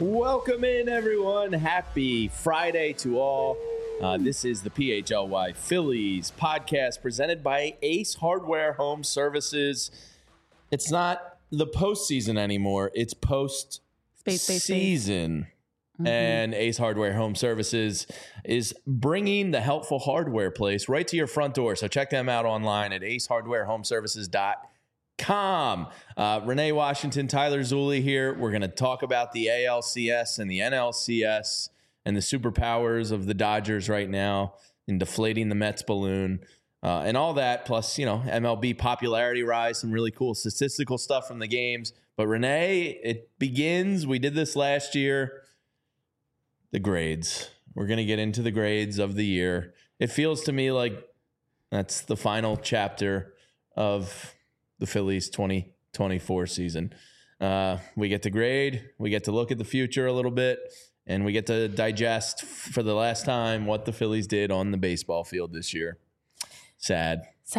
Welcome in, everyone. Happy Friday to all. This is the PHLY Phillies podcast presented by Ace Hardware Home Services. It's not the postseason anymore. It's post-season. And Ace Hardware Home Services is bringing the helpful hardware place right to your front door. So check them out online at acehardwarehomeservices.com. Renee Washington, Tyler Zulli here. We're going to talk about the ALCS and the NLCS and the superpowers of the Dodgers right now in deflating the Mets balloon and all that. Plus, MLB popularity rise, some really cool statistical stuff from the games. But Renee, it begins. We did this last year. The grades. We're going to get into the grades of the year. It feels to me like that's the final chapter of the Phillies 2024 season. We get to grade, we get to look at the future a little bit, and we get to digest for the last time what the Phillies did on the baseball field this year. Sad.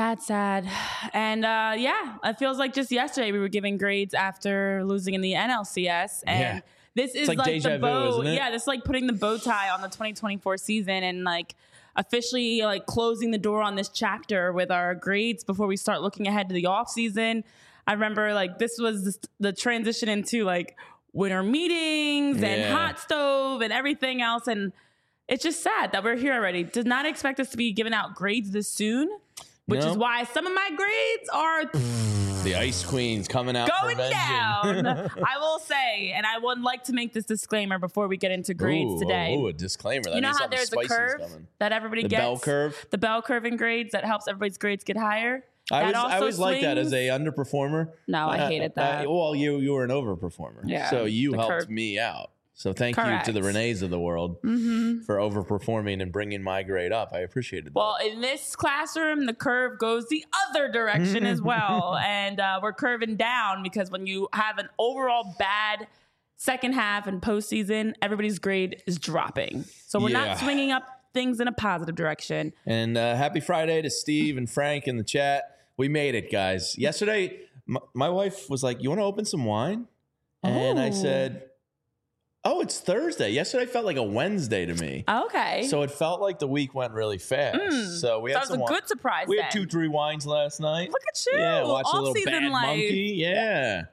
And it feels like just yesterday we were giving grades after losing in the NLCS. And this is like the bow. Isn't it? Yeah, this is like putting the bow tie on the 2024 season and like officially like closing the door on this chapter with our grades before we start looking ahead to the off season. I remember like this was the transition into like winter meetings and hot stove and everything else. And it's just sad that we're here already. Did not expect us to be giving out grades this soon, which is why some of my grades are the Ice Queen's coming out going down. I will say, and I would like to make this disclaimer before we get into grades today. Ooh, a disclaimer. That you know how there's a curve that everybody gets? The bell curve? The bell curve in grades that helps everybody's grades get higher. I always like that as a underperformer. No, I hated that. Well, you were an overperformer. Yeah, so you helped me out. So thank you to the Renees of the world for overperforming and bringing my grade up. I appreciated that. Well, in this classroom, the curve goes the other direction as well. And we're curving down because when you have an overall bad second half and postseason, everybody's grade is dropping. So we're not swinging up things in a positive direction. And happy Friday to Steve and Frank in the chat. We made it, guys. Yesterday, my wife was like, "You want to open some wine?" And I said, "Oh, it's Thursday." Yesterday felt like a Wednesday to me. Okay. So it felt like the week went really fast. So we had some a good surprise. We had 2-3 wines last night. Look at you. Yeah, watch a little Bad Monkey. Yeah.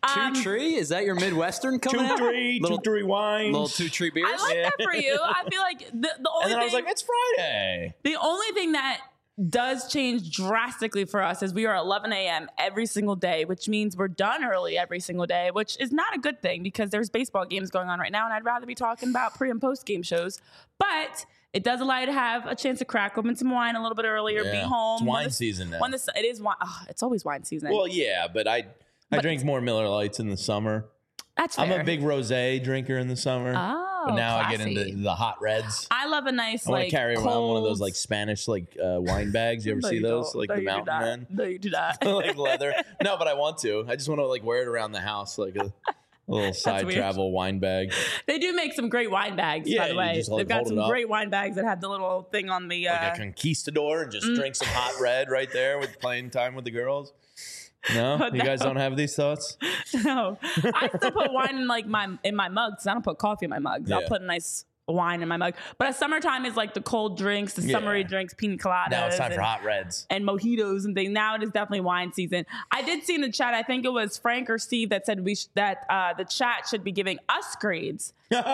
2-3? Is that your Midwestern coming out? 2-3 wines. Little 2-3 beers? I like that for you. I feel like the only and then thing, I was like, it's Friday. The only thing that does change drastically for us is we are 11 a.m. every single day, which means we're done early every single day, which is not a good thing because there's baseball games going on right now, and I'd rather be talking about pre- and post-game shows. But it does allow you to have a chance to crack open some wine a little bit earlier, be home. It's wine season now. It is wine. Oh, it's always wine season. Well, yeah, but I drink more Miller Lights in the summer. That's fair. I'm a big rosé drinker in the summer. Oh, but now classy. I get into the hot reds. I love a nice I want to carry around cold... one of those like Spanish wine bags. You ever see those? Like the Mountain Men? No, you do not. Like leather. No, but I want to. I just want to like wear it around the house like a little side travel wine bag. They do make some great wine bags, by the way. Just, like, they've got some great wine bags that have the little thing on the... like a conquistador and just drink some hot red right there with playing time with the girls. No? You guys don't have these thoughts? No. I still put wine in like in my mugs. I don't put coffee in my mugs. I'll put a nice wine in my mug. But summertime is like the cold drinks, the summery drinks, pina coladas. Now it's time for hot reds. And mojitos and things. Now it is definitely wine season. I did see in the chat, I think it was Frank or Steve that said that the chat should be giving us grades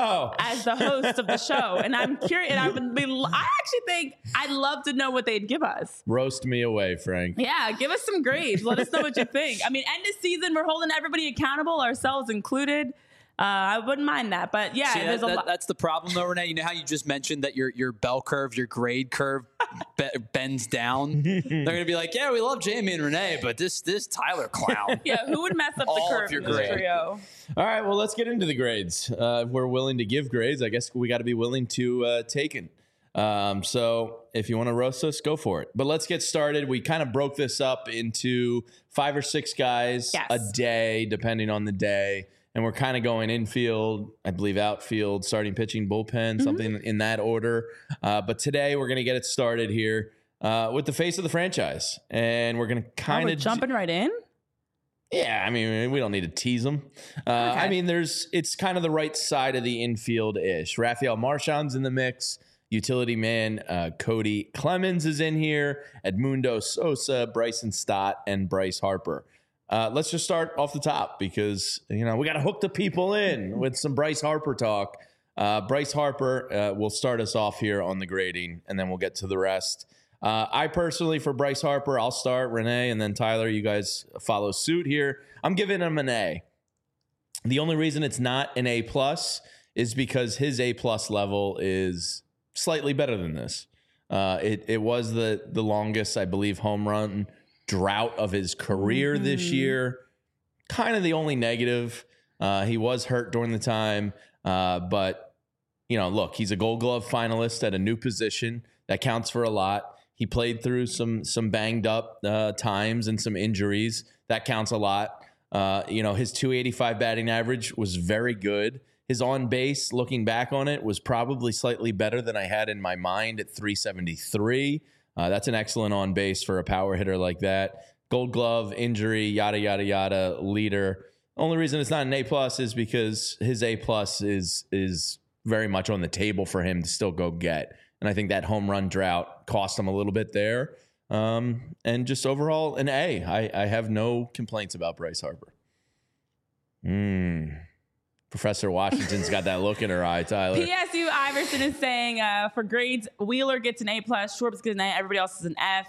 as the host of the show. And I'm curious. And I actually think I'd love to know what they'd give us. Roast me away, Frank. Yeah, give us some grades. Let us know what you think. I mean, end of season, we're holding everybody accountable, ourselves included. I wouldn't mind that, but yeah, see, that's the problem though, Renee. You know how you just mentioned that your bell curve, your grade curve bends down. They're gonna be like, yeah, we love Jamie and Renee, but this Tyler clown. Yeah, who would mess up the curve in this trio? All right, well, let's get into the grades. If we're willing to give grades, I guess we got to be willing to take it. So if you want to roast us, go for it. But let's get started. We kind of broke this up into 5 or 6 guys a day, depending on the day. And we're kind of going infield, I believe outfield, starting pitching, bullpen, something in that order. But today we're going to get it started here with the face of the franchise. And we're going to kind of... jumping right in? Yeah, I mean, we don't need to tease him. I mean, it's kind of the right side of the infield-ish. Rafael Marchand's in the mix. Utility man Cody Clemens is in here. Edmundo Sosa, Bryson Stott, and Bryce Harper. Let's just start off the top because, we got to hook the people in with some Bryce Harper talk. Bryce Harper will start us off here on the grading, and then we'll get to the rest. I personally, for Bryce Harper, I'll start. Renee, and then Tyler, you guys follow suit here. I'm giving him an A. The only reason it's not an A+ is because his A+ level is slightly better than this. It was the longest, I believe, home run drought of his career this year. Kind of the only negative. He was hurt during the time, but look, he's a Gold Glove finalist at a new position. That counts for a lot. He played through some banged up times and some injuries. That counts a lot. His 285 batting average was very good. His on base, looking back on it, was probably slightly better than I had in my mind at 373. That's an excellent on base for a power hitter like that. Gold Glove, injury, yada, yada, yada, leader. Only reason it's not an A+ is because his A+ is very much on the table for him to still go get. And I think that home run drought cost him a little bit there. And just overall, an A. I have no complaints about Bryce Harper. Professor Washington's got that look in her eye, Tyler. PSU Iverson is saying for grades, Wheeler gets an A+, Schwartz gets an A, everybody else is an F.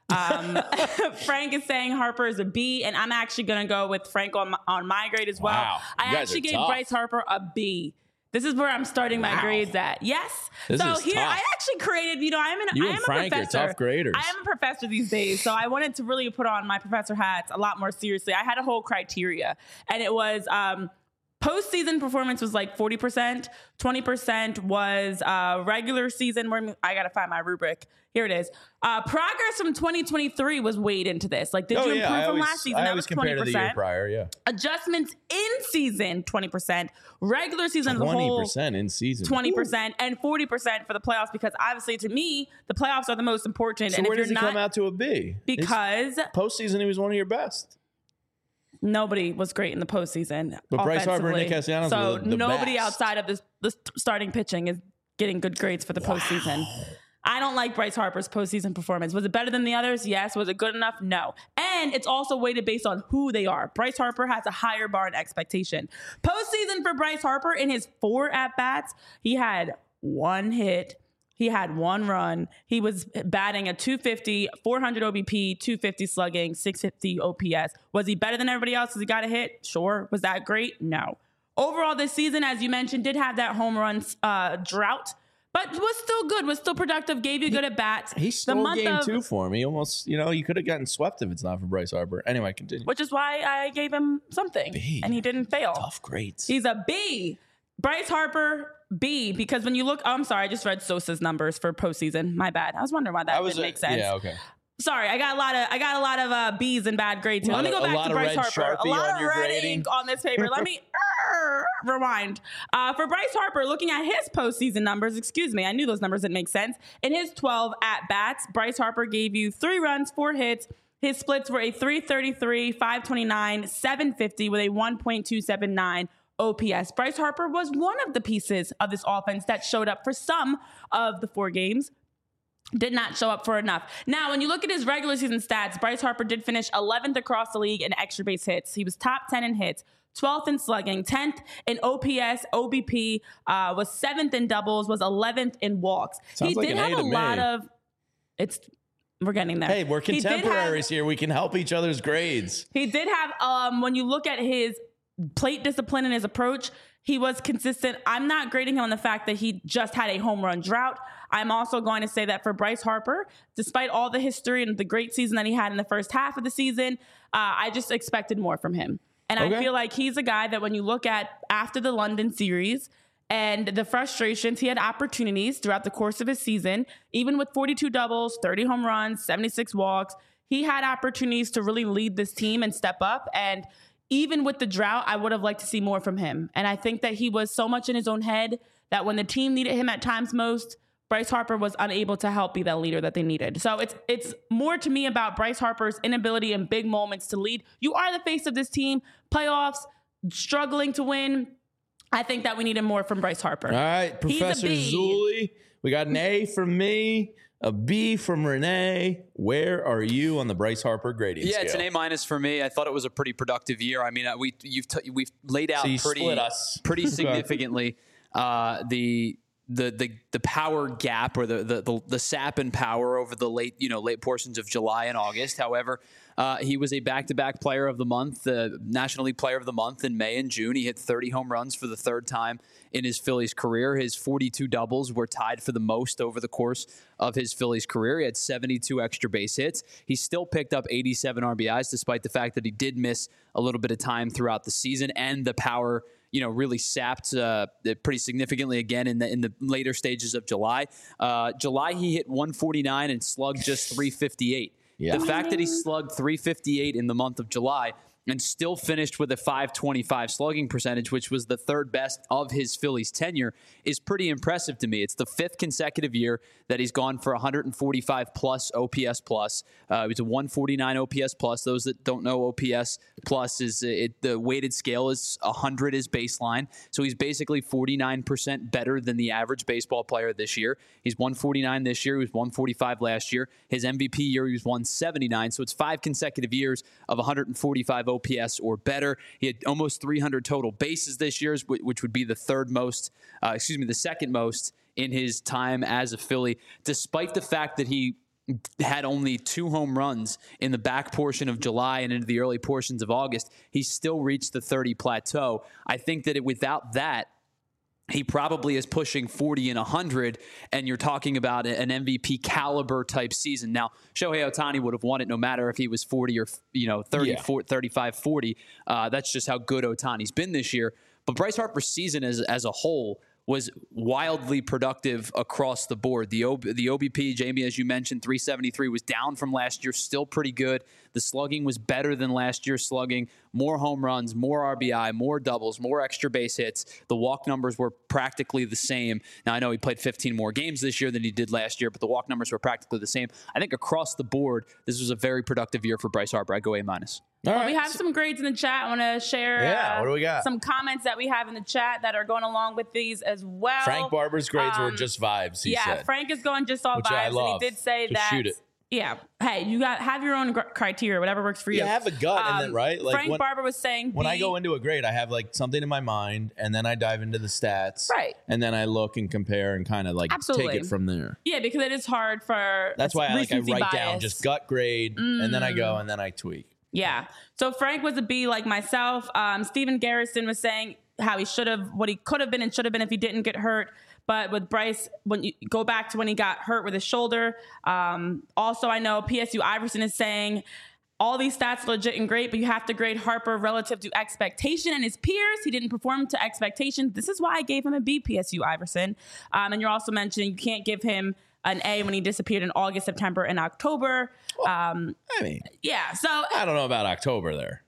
Frank is saying Harper is a B, and I'm actually going to go with Frank on my grade as well. Wow, I actually gave Bryce Harper a B. This is where I'm starting my grades at. Yes. So here tough. I actually created, I am a Frank professor. are tough graders. I am a professor these days. So I wanted to really put on my professor hats a lot more seriously. I had a whole criteria, and it was postseason performance was like 40%, 20% was regular season. I got to find my rubric. Here it is. Progress from 2023 was weighed into this. Like, did you improve from last season? That was 20%. To the year prior, yeah. Adjustments in season, 20%. Regular season as a whole, 20% in season. 20%, and 40% for the playoffs, because obviously to me, the playoffs are the most important. So and where if does he come out to a B? Because postseason, he was one of your best. Nobody was great in the postseason. But Bryce Harper and Nick Castellanos were the nobody best. outside of the starting pitching is getting good grades for the postseason. I don't like Bryce Harper's postseason performance. Was it better than the others? Yes. Was it good enough? No. And it's also weighted based on who they are. Bryce Harper has a higher bar and expectation. Postseason for Bryce Harper, in his 4 at-bats, he had 1 hit. He had 1 run. He was batting a 250, 400 OBP, 250 slugging, 650 OPS. Was he better than everybody else because he got a hit? Sure. Was that great? No. Overall, this season, as you mentioned, did have that home run drought, but was still good, was still productive, gave you good at bats. He stole game 2 for me. Almost, you could have gotten swept if it's not for Bryce Harper. Anyway, continue. Which is why I gave him something. B. And he didn't fail. Tough grades. He's a B. Bryce Harper, B, because when you look, I'm sorry, I just read Sosa's numbers for postseason. My bad. I was wondering why that didn't make sense. Yeah, okay. Sorry, I got a lot of B's and bad grades here. Let me go back to Bryce Harper. A lot of red ink on this paper. Let me rewind. For Bryce Harper, looking at his postseason numbers, I knew those numbers didn't make sense. In his 12 at-bats, Bryce Harper gave you 3 runs, 4 hits. His splits were a 333, 529, 750 with a 1.279 OPS. Bryce Harper was one of the pieces of this offense that showed up for some of the 4 games. Did not show up for enough. Now, when you look at his regular season stats, Bryce Harper did finish 11th across the league in extra base hits. He was top 10 in hits, 12th in slugging, 10th in OPS, OBP, was 7th in doubles, was 11th in walks. Sounds he did have a lot of. We're getting there. Hey, we're contemporaries here. We can help each other's grades. He did have, when you look at his plate discipline and his approach, he was consistent. I'm not grading him on the fact that he just had a home run drought. I'm also going to say that for Bryce Harper, despite all the history and the great season that he had in the first half of the season, I just expected more from him. And I feel like he's a guy that when you look at after the London series and the frustrations, he had opportunities throughout the course of his season, even with 42 doubles, 30 home runs, 76 walks. He had opportunities to really lead this team and step up. And even with the drought, I would have liked to see more from him. And I think that he was so much in his own head that when the team needed him at times most, Bryce Harper was unable to help be that leader that they needed. So it's more to me about Bryce Harper's inability in big moments to lead. You are the face of this team. Playoffs, struggling to win. I think that we needed more from Bryce Harper. All right, Professor Zulli. We got an A from me, a B from Renee. Where are you on the Bryce Harper grading scale? It's an A- for me. I thought it was a pretty productive year. I mean, we've laid out pretty significantly the power gap or the sap and power over the late portions of July and August. However, he was a back-to-back player of the month, the National League Player of the Month in May and June. He hit 30 home runs for the third time in his Phillies career. His 42 doubles were tied for the most over the course of his Phillies career. He had 72 extra base hits. He still picked up 87 RBIs, despite the fact that he did miss a little bit of time throughout the season, and the power really sapped pretty significantly again in the later stages of July. July, he hit 149 and slugged just 358. Yeah. The fact that he slugged 358 in the month of July and still finished with a .525 slugging percentage, which was the third best of his Phillies tenure, is pretty impressive to me. It's the fifth consecutive year that he's gone for 145 plus OPS plus. It was a 149 OPS plus. Those that don't know, OPS plus is the weighted scale is 100 is baseline. So he's basically 49% better than the average baseball player this year. He's 149 this year. He was 145 last year. His MVP year, he was 179. So it's 5 consecutive years of 145 OPS or better. He had almost 300 total bases this year, which would be the the second most in his time as a Philly, despite the fact that he had only 2 home runs in the back portion of July and into the early portions of August. He still reached the 30 plateau. I think that without that, he probably is pushing 40 and 100, and you're talking about an MVP caliber type season. Now, Shohei Ohtani would have won it no matter if he was 40 or 30, 35, 40. That's just how good Ohtani's been this year. But Bryce Harper's season as a whole was wildly productive across the board. The OBP, Jamie, as you mentioned, 373 was down from last year, still pretty good. The slugging was better than last year's slugging. More home runs, more RBI, more doubles, more extra base hits. The walk numbers were practically the same. Now, I know he played 15 more games this year than he did last year, but the walk numbers were practically the same. I think across the board, this was a very productive year for Bryce Harper. I go A-. All right. We have some grades in the chat. I want to share what do we got? Some comments that we have in the chat that are going along with these as well. Frank Barber's grades were just vibes, he said. Frank is going just all which vibes. I love. And he did say just that. Shoot it. Yeah. Hey, you have your own criteria, whatever works for you. Yeah, have a gut and then, right? Like Frank Barber was saying when I go into a grade, I have like something in my mind, and then I dive into the stats. Right. And then I look and compare and kind of like take it from there. Yeah, because it is hard for That's why I write bias down just gut grade, and then I go and then I tweak. Yeah. So Frank was a B like myself. Steven Garrison was saying how what he could have been and should have been if he didn't get hurt. But with Bryce, when you go back to when he got hurt with his shoulder, also I know PSU Iverson is saying all these stats are legit and great, but you have to grade Harper relative to expectation and his peers. He didn't perform to expectations. This is why I gave him a B, PSU Iverson. And you're also mentioning you can't give him an A when he disappeared in August, September, and October. So I don't know about October there.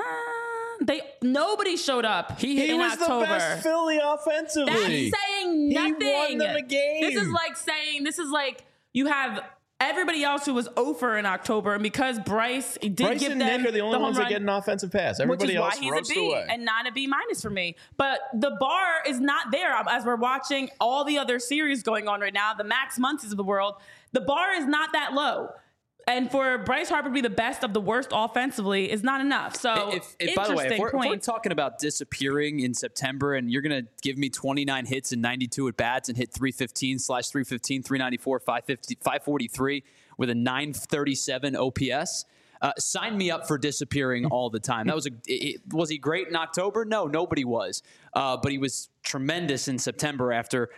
Nobody showed up. He was October. The best Philly offensively. That's saying nothing. He won them a game. This is like you have everybody else who was over in October, and because Bryce give them and Nick are the only ones that get an offensive pass. Everybody else roasts away. Which is why he's a B and not a B- for me. But the bar is not there. As we're watching all the other series going on right now, the Max Muncies of the world, the bar is not that low. And for Bryce Harper to be the best of the worst offensively is not enough. So, by the way, if we're talking about disappearing in September and you're going to give me 29 hits and 92 at-bats and hit 315/315, 394, 550, 543 with a 937 OPS, sign me up for disappearing all the time. That was he great in October? No, nobody was. But he was tremendous in September after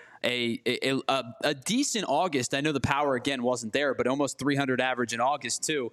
a decent August. I know the power again wasn't there, but almost 300 average in August too.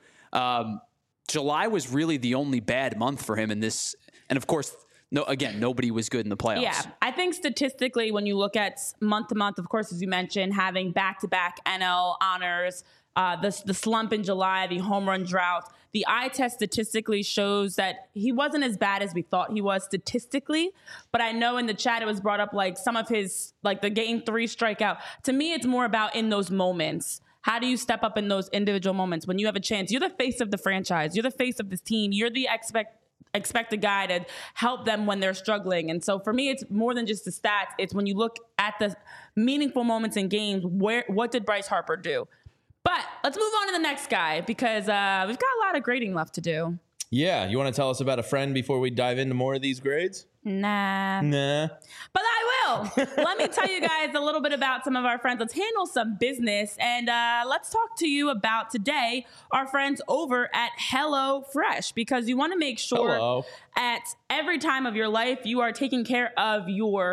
July was really the only bad month for him in this, and of course. Nobody was good in the playoffs. Yeah, I think statistically, when you look at month to month, of course, as you mentioned, having back-to-back NL honors, the slump in July, the home run drought, The eye test statistically shows that he wasn't as bad as we thought he was statistically. But I know in the chat it was brought up like some of his, like the game 3 strikeout. To me, it's more about in those moments. How do you step up in those individual moments when you have a chance? You're the face of the franchise. You're the face of this team. You're the expected guy to help them when they're struggling. And so for me, it's more than just the stats. It's when you look at the meaningful moments in games, what did Bryce Harper do? But let's move on to the next guy because we've got a lot of grading left to do. Yeah. You want to tell us about a friend before we dive into more of these grades? Nah. But I will. Let me tell you guys a little bit about some of our friends. Let's handle some business. And let's talk to you about today our friends over at HelloFresh, because you want to make sure at every time of your life you are taking care of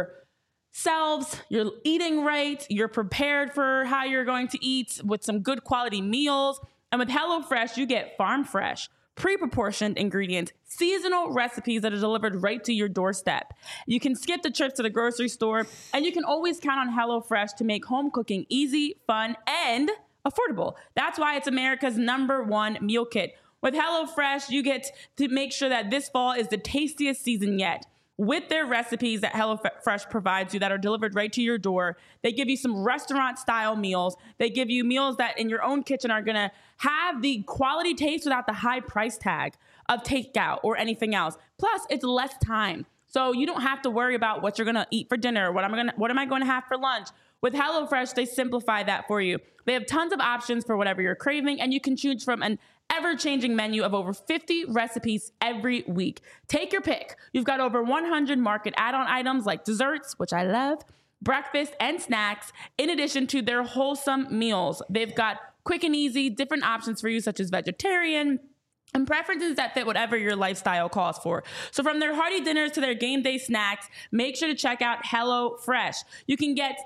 yourselves, you're eating right, you're prepared for how you're going to eat with some good quality meals. And with HelloFresh, you get farm fresh, pre-proportioned ingredients, seasonal recipes that are delivered right to your doorstep. You can skip the trips to the grocery store, and you can always count on HelloFresh to make home cooking easy, fun, and affordable. That's why it's America's #1 meal kit. With HelloFresh, you get to make sure that this fall is the tastiest season yet. With their recipes that HelloFresh provides you that are delivered right to your door, they give you some restaurant-style meals. They give you meals that in your own kitchen are going to have the quality taste without the high price tag of takeout or anything else. Plus, it's less time. So you don't have to worry about what you're going to eat for dinner, what am I going to have for lunch. With HelloFresh, they simplify that for you. They have tons of options for whatever you're craving, and you can choose from an ever-changing menu of over 50 recipes every week. Take your pick. You've got over 100 market add-on items like desserts, which I love, breakfast, and snacks, in addition to their wholesome meals. They've got quick and easy, different options for you, such as vegetarian, and preferences that fit whatever your lifestyle calls for. So from their hearty dinners to their game day snacks, make sure to check out HelloFresh. You can get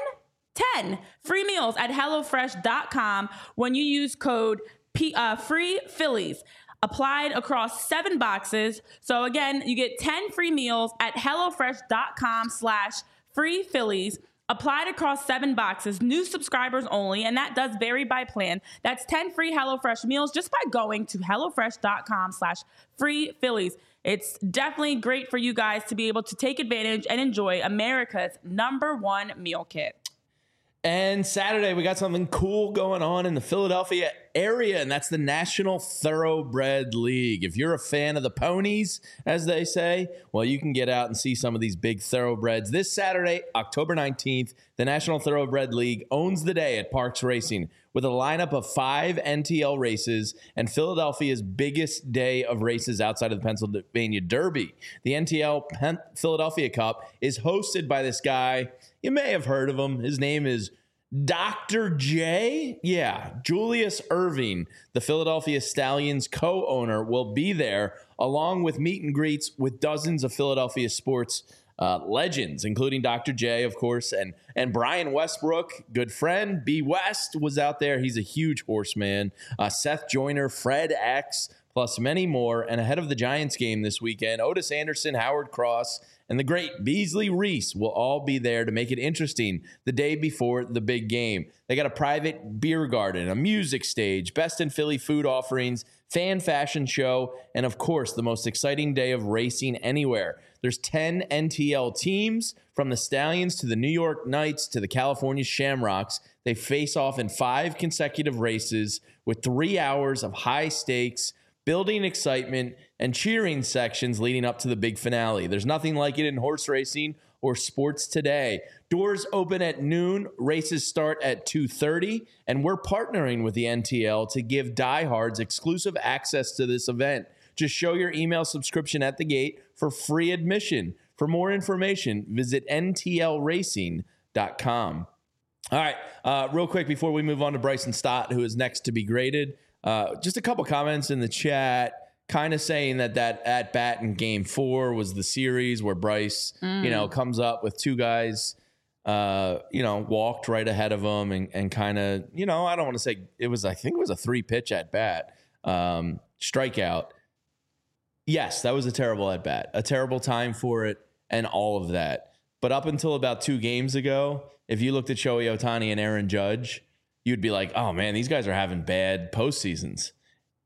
10 free meals at HelloFresh.com when you use code free Phillies applied across 7 boxes. So again, you get 10 free meals at HelloFresh.com/free Phillies applied across 7 boxes, new subscribers only. And that does vary by plan. That's 10 free HelloFresh meals just by going to HelloFresh.com/free Phillies. It's definitely great for you guys to be able to take advantage and enjoy America's #1 meal kit. And Saturday, we got something cool going on in the Philadelphia area, and that's the National Thoroughbred League. If you're a fan of the ponies, as they say, well, you can get out and see some of these big thoroughbreds. This Saturday, October 19th, the National Thoroughbred League owns the day at Parks Racing with a lineup of 5 NTL races and Philadelphia's biggest day of races outside of the Pennsylvania Derby. The NTL Philadelphia Cup is hosted by this guy. You may have heard of him. His name is Dr. J. Yeah, Julius Irving, the Philadelphia Stallions co-owner, will be there along with meet and greets with dozens of Philadelphia sports legends, including Dr. J, of course, and Brian Westbrook, good friend. B. West was out there. He's a huge horseman. Seth Joyner, Fred X, plus many more. And ahead of the Giants game this weekend, Otis Anderson, Howard Cross, and the great Beasley Reese will all be there to make it interesting the day before the big game. They got a private beer garden, a music stage, best in Philly food offerings, fan fashion show, and of course, the most exciting day of racing anywhere. There's 10 NTL teams, from the Stallions to the New York Knights to the California Shamrocks. They face off in 5 consecutive races with 3 hours of high stakes, building excitement, and cheering sections leading up to the big finale. There's nothing like it in horse racing or sports today. Doors open at noon, races start at 2:30, and we're partnering with the NTL to give diehards exclusive access to this event. Just show your email subscription at the gate for free admission. For more information, visit ntlracing.com. All right, real quick before we move on to Bryson Stott, who is next to be graded, just a couple comments in the chat kind of saying that at bat in game 4 was the series where Bryce, comes up with 2 guys, walked right ahead of him and kind of, I don't want to say I think it was a 3-pitch at bat, strikeout. Yes, that was a terrible at bat, a terrible time for it and all of that. But up until about 2 games ago, if you looked at Shohei Ohtani and Aaron Judge, you'd be like, oh man, these guys are having bad postseasons.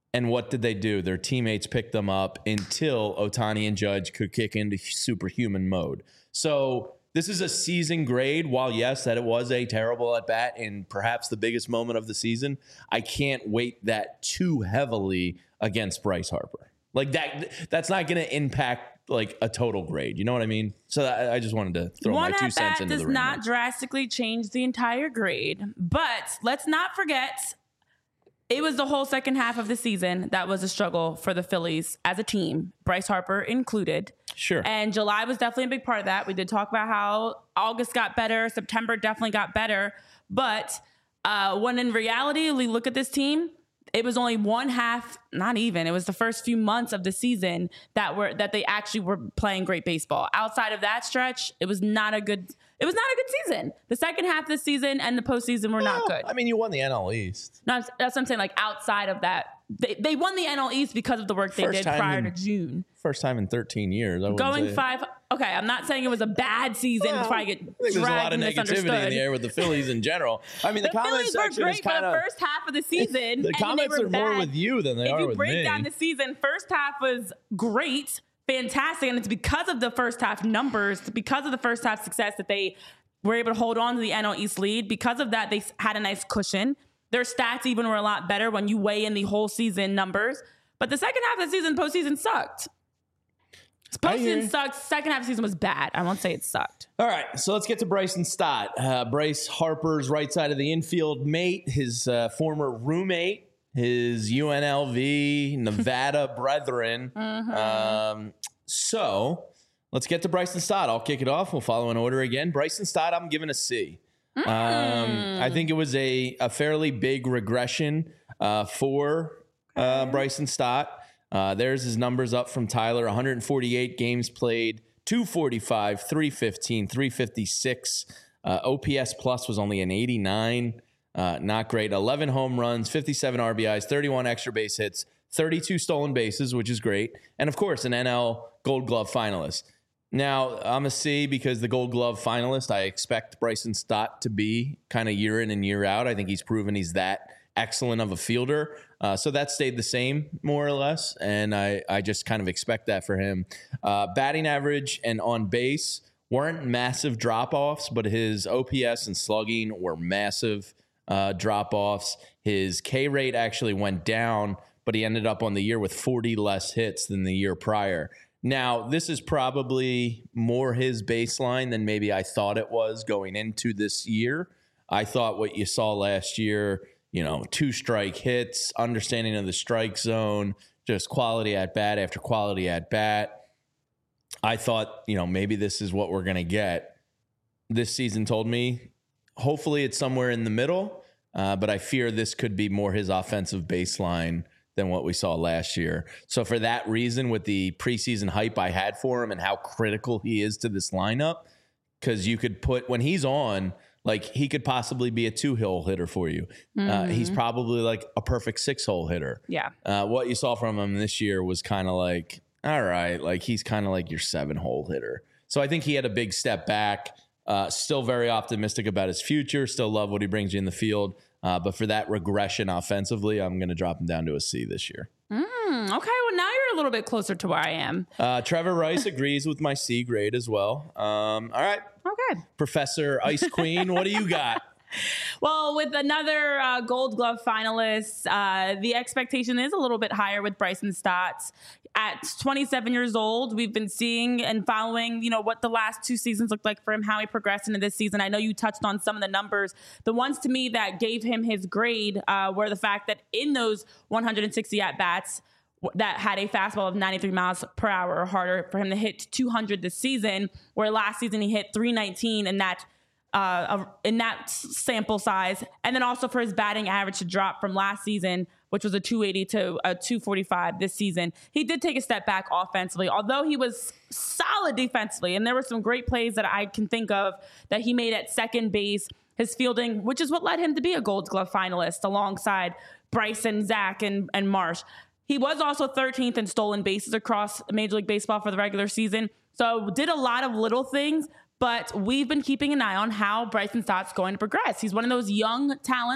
And what did they do? Their teammates picked them up until Ohtani and Judge could kick into superhuman mode. So this is a season grade. While, yes, that it was a terrible at-bat and perhaps the biggest moment of the season, I can't weight that too heavily against Bryce Harper. Like that's not going to impact like a total grade. You know what I mean? So I just wanted to throw my 2 cents into the ring. One at-bat does not drastically change the entire grade. But let's not forget, it was the whole second half of the season that was a struggle for the Phillies as a team, Bryce Harper included. Sure. And July was definitely a big part of that. We did talk about how August got better. September definitely got better. But when in reality, we look at this team, it was only one half, not even. It was the first few months of the season that they actually were playing great baseball. Outside of that stretch, it was not a good season. The second half of the season and the postseason were not good. I mean, you won the NL East. No, that's what I'm saying. Like outside of that, they won the NL East because of the work they did prior to June. First time in 13 years. Going 5. Okay, I'm not saying it was a bad season. Well, I think there's a lot of negativity in the air with the Phillies in general. I mean, the comments Phillies were section great is kind for of the first half of the season. The comments are more with you than they are with me. If you break down the season, first half was great, fantastic, and it's because of the first half numbers, because of the first half success that they were able to hold on to the NL East lead. Because of that, they had a nice cushion. Their stats even were a lot better when you weigh in the whole season numbers. But the second half of the season, postseason sucked. Postseason sucked. Second half of the season was bad. I won't say it sucked. All right, so let's get to Bryson Stott. Bryce Harper's right side of the infield mate, his former roommate, his UNLV Nevada brethren. So let's get to Bryson Stott. I'll kick it off. We'll follow in order again. Bryson Stott, I'm giving a C. I think it was a fairly big regression for Bryson Stott. There's his numbers up from Tyler. 148 games played, 245, 315, 356. OPS plus was only an 89. Not great. 11 home runs, 57 RBIs, 31 extra base hits, 32 stolen bases, which is great. And, of course, an NL Gold Glove finalist. Now, I'm a C because the Gold Glove finalist, I expect Bryson Stott to be kind of year in and year out. I think he's proven he's that excellent of a fielder. So that stayed the same, more or less, and I just kind of expect that for him. Batting average and on base weren't massive drop-offs, but his OPS and slugging were massive drop-offs. His K rate actually went down, but he ended up on the year with 40 less hits than the year prior. Now, this is probably more his baseline than maybe I thought it was going into this year. I thought what you saw last year, 2-strike hits, understanding of the strike zone, just quality at bat after quality at bat. I thought, maybe this is what we're going to get. This season told me, hopefully it's somewhere in the middle, but I fear this could be more his offensive baseline than what we saw last year. So for that reason, with the preseason hype I had for him and how critical he is to this lineup, because you could put, when he's on, like he could possibly be a 2-hole hitter for you. He's probably like a perfect 6-hole hitter. Yeah. What you saw from him this year was kind of like, all right, like he's kind of like your 7-hole hitter. So I think he had a big step back. Still very optimistic about his future. Still love what he brings you in the field. But for that regression offensively, I'm going to drop him down to a C this year. Okay, well, now you're a little bit closer to where I am. Trevor Rice agrees with my C grade as well. All right. Okay. Professor Ice Queen, what do you got? Well, with another Gold Glove finalist, the expectation is a little bit higher with Bryson Stott. At 27 years old, we've been seeing and following, what the last 2 seasons looked like for him, how he progressed into this season. I know you touched on some of the numbers. The ones to me that gave him his grade were the fact that in those 160 at-bats, that had a fastball of 93 miles per hour or harder for him to hit 200 this season, where last season he hit 319 in that sample size. And then also for his batting average to drop from last season, which was a 280 to a 245 this season. He did take a step back offensively, although he was solid defensively. And there were some great plays that I can think of that he made at second base. His fielding, which is what led him to be a Gold Glove finalist alongside Bryson, Zach, and Marsh. He was also 13th in stolen bases across Major League Baseball for the regular season. So did a lot of little things, but we've been keeping an eye on how Bryson Stott's going to progress. He's one of those young talents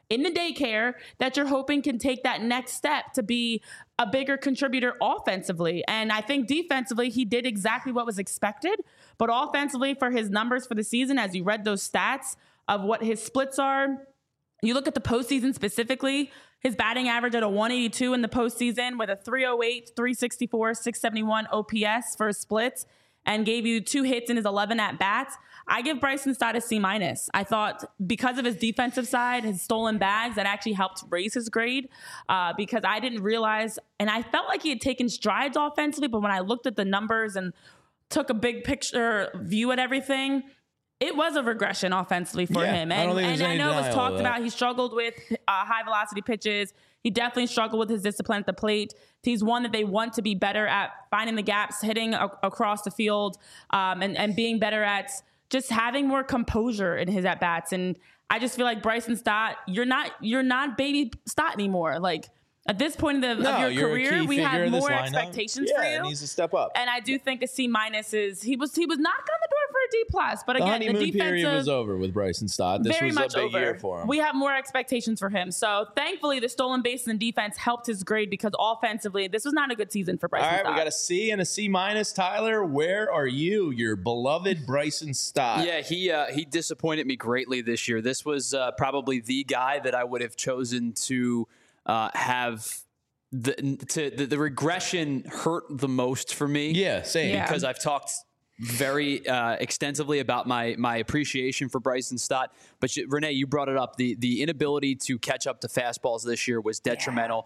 in the daycare that you're hoping can take that next step to be a bigger contributor offensively. And I think defensively, he did exactly what was expected. But offensively, for his numbers for the season, as you read those stats of what his splits are, you look at the postseason specifically, his batting average at a 182 in the postseason with a 308, 364, 671 OPS for his splits, and gave you 2 hits in his 11 at-bats. I give Bryson Stott a C-. I thought because of his defensive side, his stolen bags, that actually helped raise his grade because I didn't realize, and I felt like he had taken strides offensively, but when I looked at the numbers and took a big picture view at everything, it was a regression offensively for him. And I know it was talked about. He struggled with high velocity pitches. He definitely struggled with his discipline at the plate. He's one that they want to be better at finding the gaps, hitting across the field, and being better at just having more composure in his at-bats. And I just feel like Bryson Stott, you're not baby Stott anymore. Like, at this point of your career, we have more expectations for you. Yeah, it needs to step up. And I do think a C- is he was knocking on the door for a D+. But again, the defensive period was over with Bryson Stott. This was a big year for him. We have more expectations for him. So thankfully, the stolen bases and defense helped his grade because offensively, this was not a good season for Bryson Stott. All right, we got a C and a C-. Tyler, where are you, your beloved Bryson Stott? Yeah, he disappointed me greatly this year. This was probably the guy that I would have chosen to have the regression hurt the most for me. Yeah, same. Because I've talked very extensively about my appreciation for Bryson Stott. But Renee, you brought it up. The inability to catch up to fastballs this year was detrimental.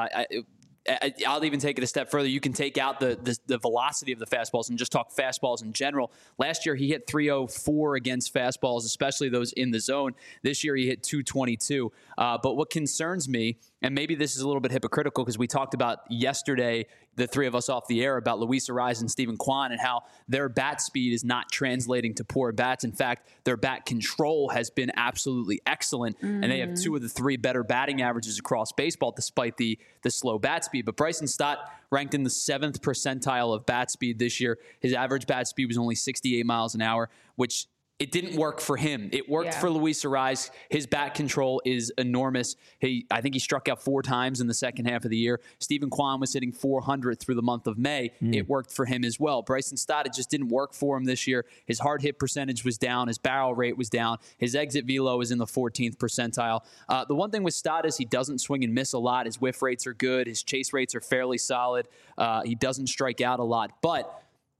I'll even take it a step further. You can take out the velocity of the fastballs and just talk fastballs in general. Last year, he hit 304 against fastballs, especially those in the zone. This year, he hit 222. But what concerns me, and maybe this is a little bit hypocritical because we talked about yesterday, the three of us off the air, about Luis Arraez and Steven Kwan and how their bat speed is not translating to poor bats. In fact, their bat control has been absolutely excellent, and they have 2 of the 3 better batting averages across baseball despite the slow bat speed. But Bryson Stott ranked in the 7th percentile of bat speed this year. His average bat speed was only 68 miles an hour, which it didn't work for him. It worked for Luis Arraez. His bat control is enormous. I think he struck out 4 times in the second half of the year. Steven Kwan was hitting 400 through the month of May. It worked for him as well. Bryson Stott, it just didn't work for him this year. His hard hit percentage was down. His barrel rate was down. His exit velo is in the 14th percentile. The one thing with Stott is he doesn't swing and miss a lot. His whiff rates are good. His chase rates are fairly solid. He doesn't strike out a lot. But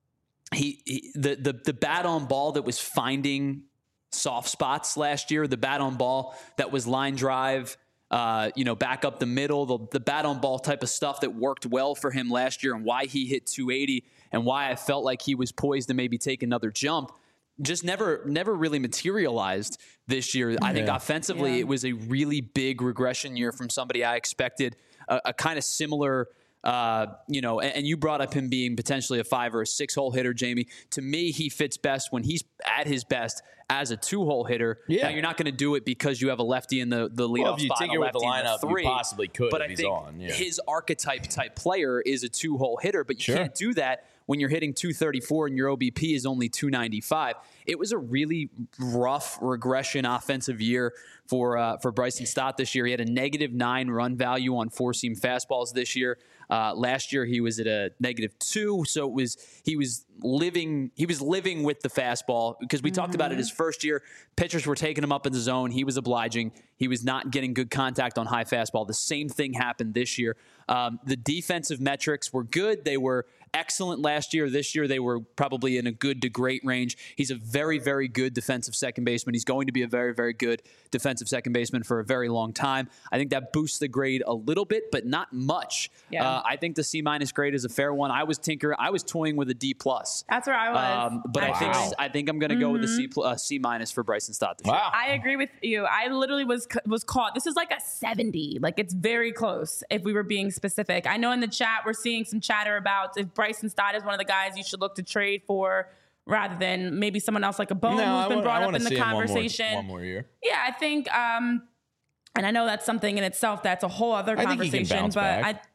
the bat on ball that was finding soft spots last year, the bat on ball that was line drive, back up the middle, the bat on ball type of stuff that worked well for him last year and why he hit 280 and why I felt like he was poised to maybe take another jump, just never really materialized this year. I think offensively it was a really big regression year from somebody I expected a kind of similar and you brought up him being potentially a 5 or a 6-hole hitter, Jamie. To me, he fits best when he's at his best as a 2-hole hitter. Yeah. Now, you're not going to do it because you have a lefty in the leadoff spot. If you tinker with the lineup, you possibly could but if he's on. Yeah. His archetype type player is a 2-hole hitter, but you can't do that when you're hitting 234 and your OBP is only 295. It was a really rough regression offensive year for Bryson Stott this year. He had a -9 run value on 4-seam fastballs this year. Last year he was at a -2, so he was living with the fastball because we talked about it his first year. Pitchers were taking him up in the zone. He was obliging. He was not getting good contact on high fastball. The same thing happened this year. The defensive metrics were good. They were excellent last year. This year they were probably in a good to great range. He's a very, very good defensive second baseman. He's going to be a very, very good defensive second baseman for a very long time. I think that boosts the grade a little bit, but not much. Yeah. I think the C- grade is a fair one. I was toying with a D+. That's where I was. But I think I'm going to go with a C- for Bryson Stott this year. I agree with you. I literally was caught. This is like a 70. Like, it's very close if we were being specific. I know in the chat we're seeing some chatter about if Bryson Stott is one of the guys you should look to trade for rather than maybe someone else like a Bone who's been brought up in the conversation. One more year. Yeah, I think, and I know that's something in itself that's a whole other conversation. But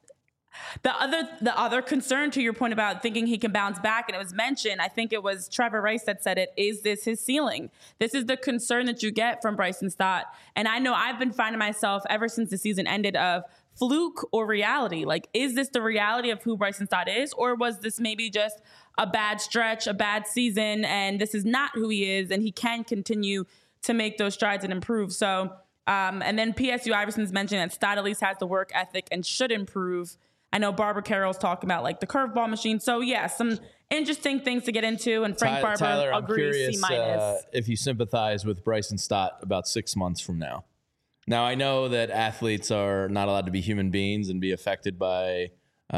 The other concern to your point about thinking he can bounce back, and it was mentioned, I think it was Trevor Rice that said it, is this his ceiling? This is the concern that you get from Bryson Stott. And I know I've been finding myself ever since the season ended of fluke or reality. Like, is this the reality of who Bryson Stott is? Or was this maybe just a bad stretch, a bad season, and this is not who he is, and he can continue to make those strides and improve? So, and then PSU Iverson's mentioned that Stott at least has the work ethic and should improve. I know Barbara Carroll's talking about like the curveball machine. So yeah, some interesting things to get into. And Frank Barber Tyler, agrees C-. If you sympathize with Bryson Stott about 6 months from now. Now, I know that athletes are not allowed to be human beings and be affected by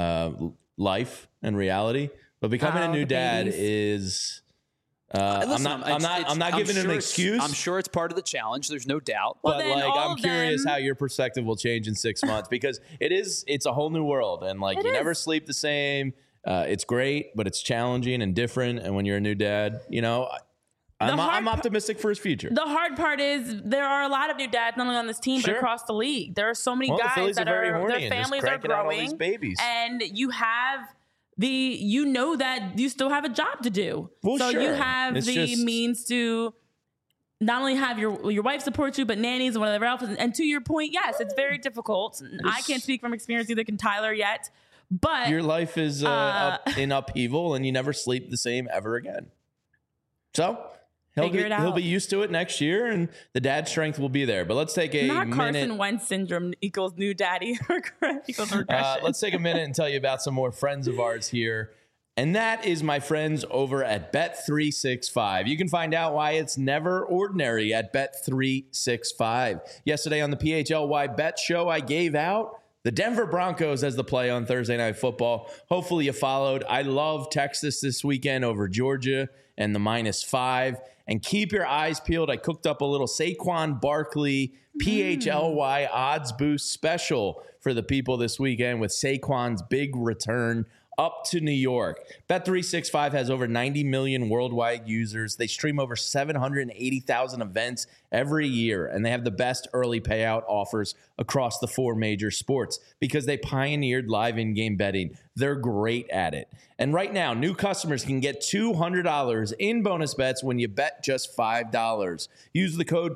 life and reality, but becoming a new dad is. Listen, I'm not giving him an excuse. I'm sure it's part of the challenge. There's no doubt. Well, but then like, all I'm of curious them- how your perspective will change in 6 months, because it's a whole new world, and like, It you is. never sleep the same. It's great, but it's challenging and different. And when you're a new dad, you know, I'm optimistic for his future. The hard part is there are a lot of new dads not only on this team Sure. but across the league. There are so many Well, the guys Phillies that are very horny their and just families are cranking out all growing, these babies. and you have you know that you still have a job to do. Well, so you sure. have It's the just- means to not only have your wife support you, but nannies and whatever else. And to your point, yes, it's very difficult. I can't speak from experience, either can Tyler yet, but Your life is in upheaval, and you never sleep the same ever again. So Figure it out. he'll be used to it next year, and the dad strength will be there. But let's take a not Carson minute. Wentz syndrome equals new daddy equals regression. Let's take a minute and tell you about some more friends of ours here. And that is my friends over at Bet365. You can find out why it's never ordinary at Bet365. Yesterday on the PHLY Bet Show, I gave out the Denver Broncos as the play on Thursday Night Football. Hopefully you followed. I love Texas this weekend over Georgia and the -5. And keep your eyes peeled. I cooked up a little Saquon Barkley PHLY odds boost special for the people this weekend with Saquon's big return up to New York. Bet365 has over 90 million worldwide users. They stream over 780,000 events every year, and they have the best early payout offers across the 4 major sports because they pioneered live in-game betting. They're great at it. And right now, new customers can get $200 in bonus bets when you bet just $5. Use the code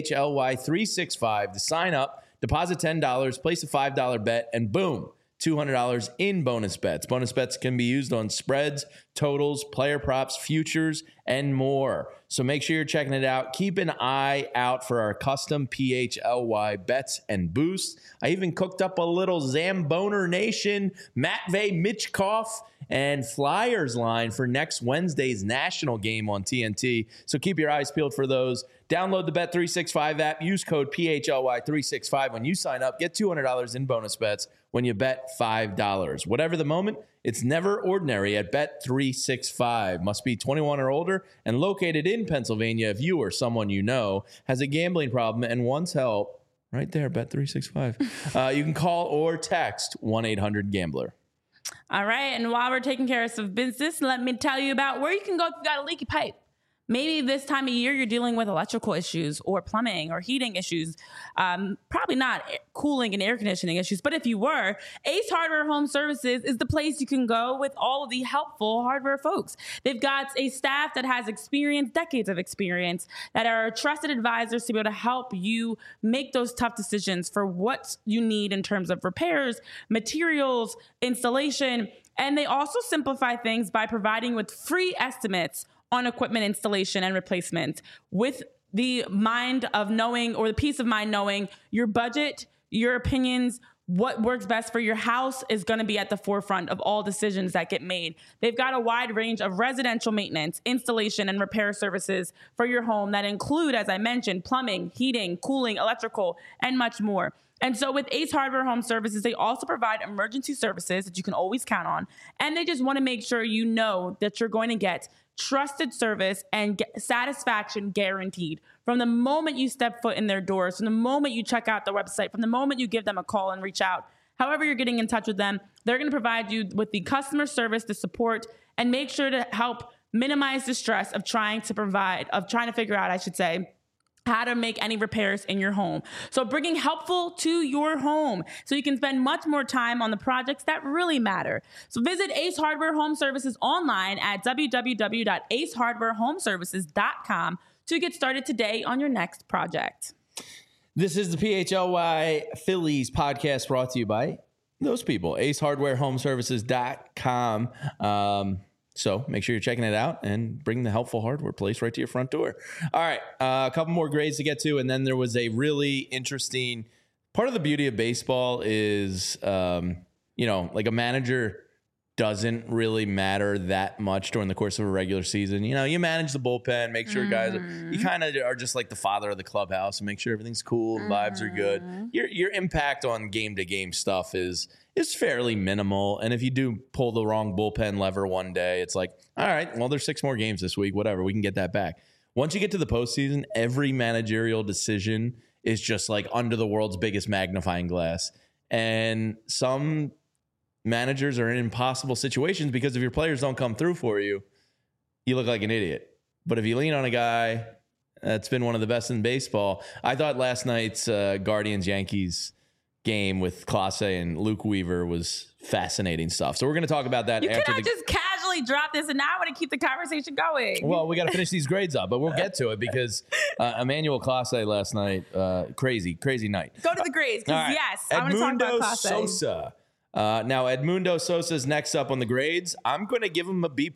PHLY365 to sign up, deposit $10, place a $5 bet, and boom, $200 in bonus bets. Bonus bets can be used on spreads, totals, player props, futures, and more. So make sure you're checking it out. Keep an eye out for our custom PHLY bets and boosts. I even cooked up a little Zamboner Nation, Matvey Michkov, and Flyers line for next Wednesday's national game on TNT. So keep your eyes peeled for those. Download the Bet365 app. Use code PHLY365 when you sign up. Get $200 in bonus bets when you bet $5. Whatever the moment, it's never ordinary at Bet365. Must be 21 or older and located in Pennsylvania. If you or someone you know has a gambling problem and wants help, right there, Bet365. You can call or text 1-800-GAMBLER. All right, and while we're taking care of some business, let me tell you about where you can go if you've got a leaky pipe. Maybe this time of year you're dealing with electrical issues or plumbing or heating issues. Probably not cooling and air conditioning issues, but if you were, Ace Hardware Home Services is the place you can go with all of the helpful hardware folks. They've got a staff that has experience, decades of experience, that are trusted advisors to be able to help you make those tough decisions for what you need in terms of repairs, materials, installation, and they also simplify things by providing with free estimates on equipment installation and replacement with the mind of knowing, or the peace of mind knowing your budget, your opinions, what works best for your house is going to be at the forefront of all decisions that get made. They've got a wide range of residential maintenance, installation, and repair services for your home that include, as I mentioned, plumbing, heating, cooling, electrical, and much more. And so with Ace Hardware Home Services, they also provide emergency services that you can always count on. And they just want to make sure you know that you're going to get trusted service and satisfaction guaranteed from the moment you step foot in their doors, from the moment you check out their website, from the moment you give them a call and reach out. However you're getting in touch with them, they're going to provide you with the customer service, the support, and make sure to help minimize the stress of trying to figure out, how to make any repairs in your home. So bringing helpful to your home so you can spend much more time on the projects that really matter. So visit Ace Hardware Home Services online at www.acehardwarehomeservices.com to get started today on your next project. This is the PHLY Phillies podcast brought to you by those people, acehardwarehomeservices.com. So make sure you're checking it out and bring the helpful hardware place right to your front door. All right, a couple more grades to get to, and then there was a really interesting part of the beauty of baseball is, like a manager doesn't really matter that much during the course of a regular season. You manage the bullpen, make sure guys you kind of are just like the father of the clubhouse and make sure everything's cool and vibes are good. Your impact on game to game stuff is fairly minimal. And if you do pull the wrong bullpen lever one day, it's like, all right, well, there's 6 more games this week, whatever, we can get that back. Once you get to the postseason, every managerial decision is just like under the world's biggest magnifying glass. And some managers are in impossible situations because if your players don't come through for you, you look like an idiot. But if you lean on a guy that's been one of the best in baseball, I thought last night's Guardians-Yankees game with Clase and Luke Weaver was fascinating stuff. So we're going to talk about that you after cannot just casually drop this, and now I want to keep the conversation going. Well, we got to finish these grades up, but we'll get to it because Emmanuel Clase last night, crazy night. Go to the grades, because yes, I want to talk about Clase. Sosa. Now, Edmundo Sosa's next up on the grades. I'm going to give him a B+.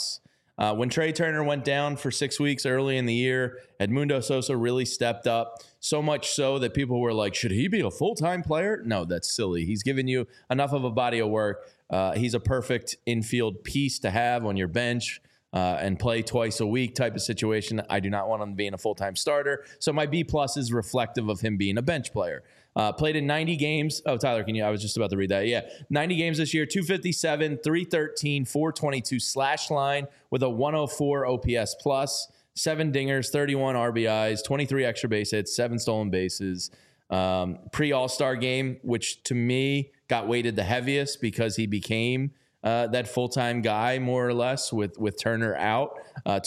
When Trey Turner went down for 6 weeks early in the year, Edmundo Sosa really stepped up, so much so that people were like, should he be a full-time player? No, that's silly. He's given you enough of a body of work. He's a perfect infield piece to have on your bench and play twice a week type of situation. I do not want him being a full-time starter. So my B+ is reflective of him being a bench player. Played in 90 games. Oh, Tyler, I was just about to read that. Yeah. 90 games this year, 257, 313, 422 slash line with a 104 OPS plus, 7 dingers, 31 RBIs, 23 extra base hits, 7 stolen bases. Pre-All-Star game, which to me got weighted the heaviest because he became that full-time guy more or less with Turner out.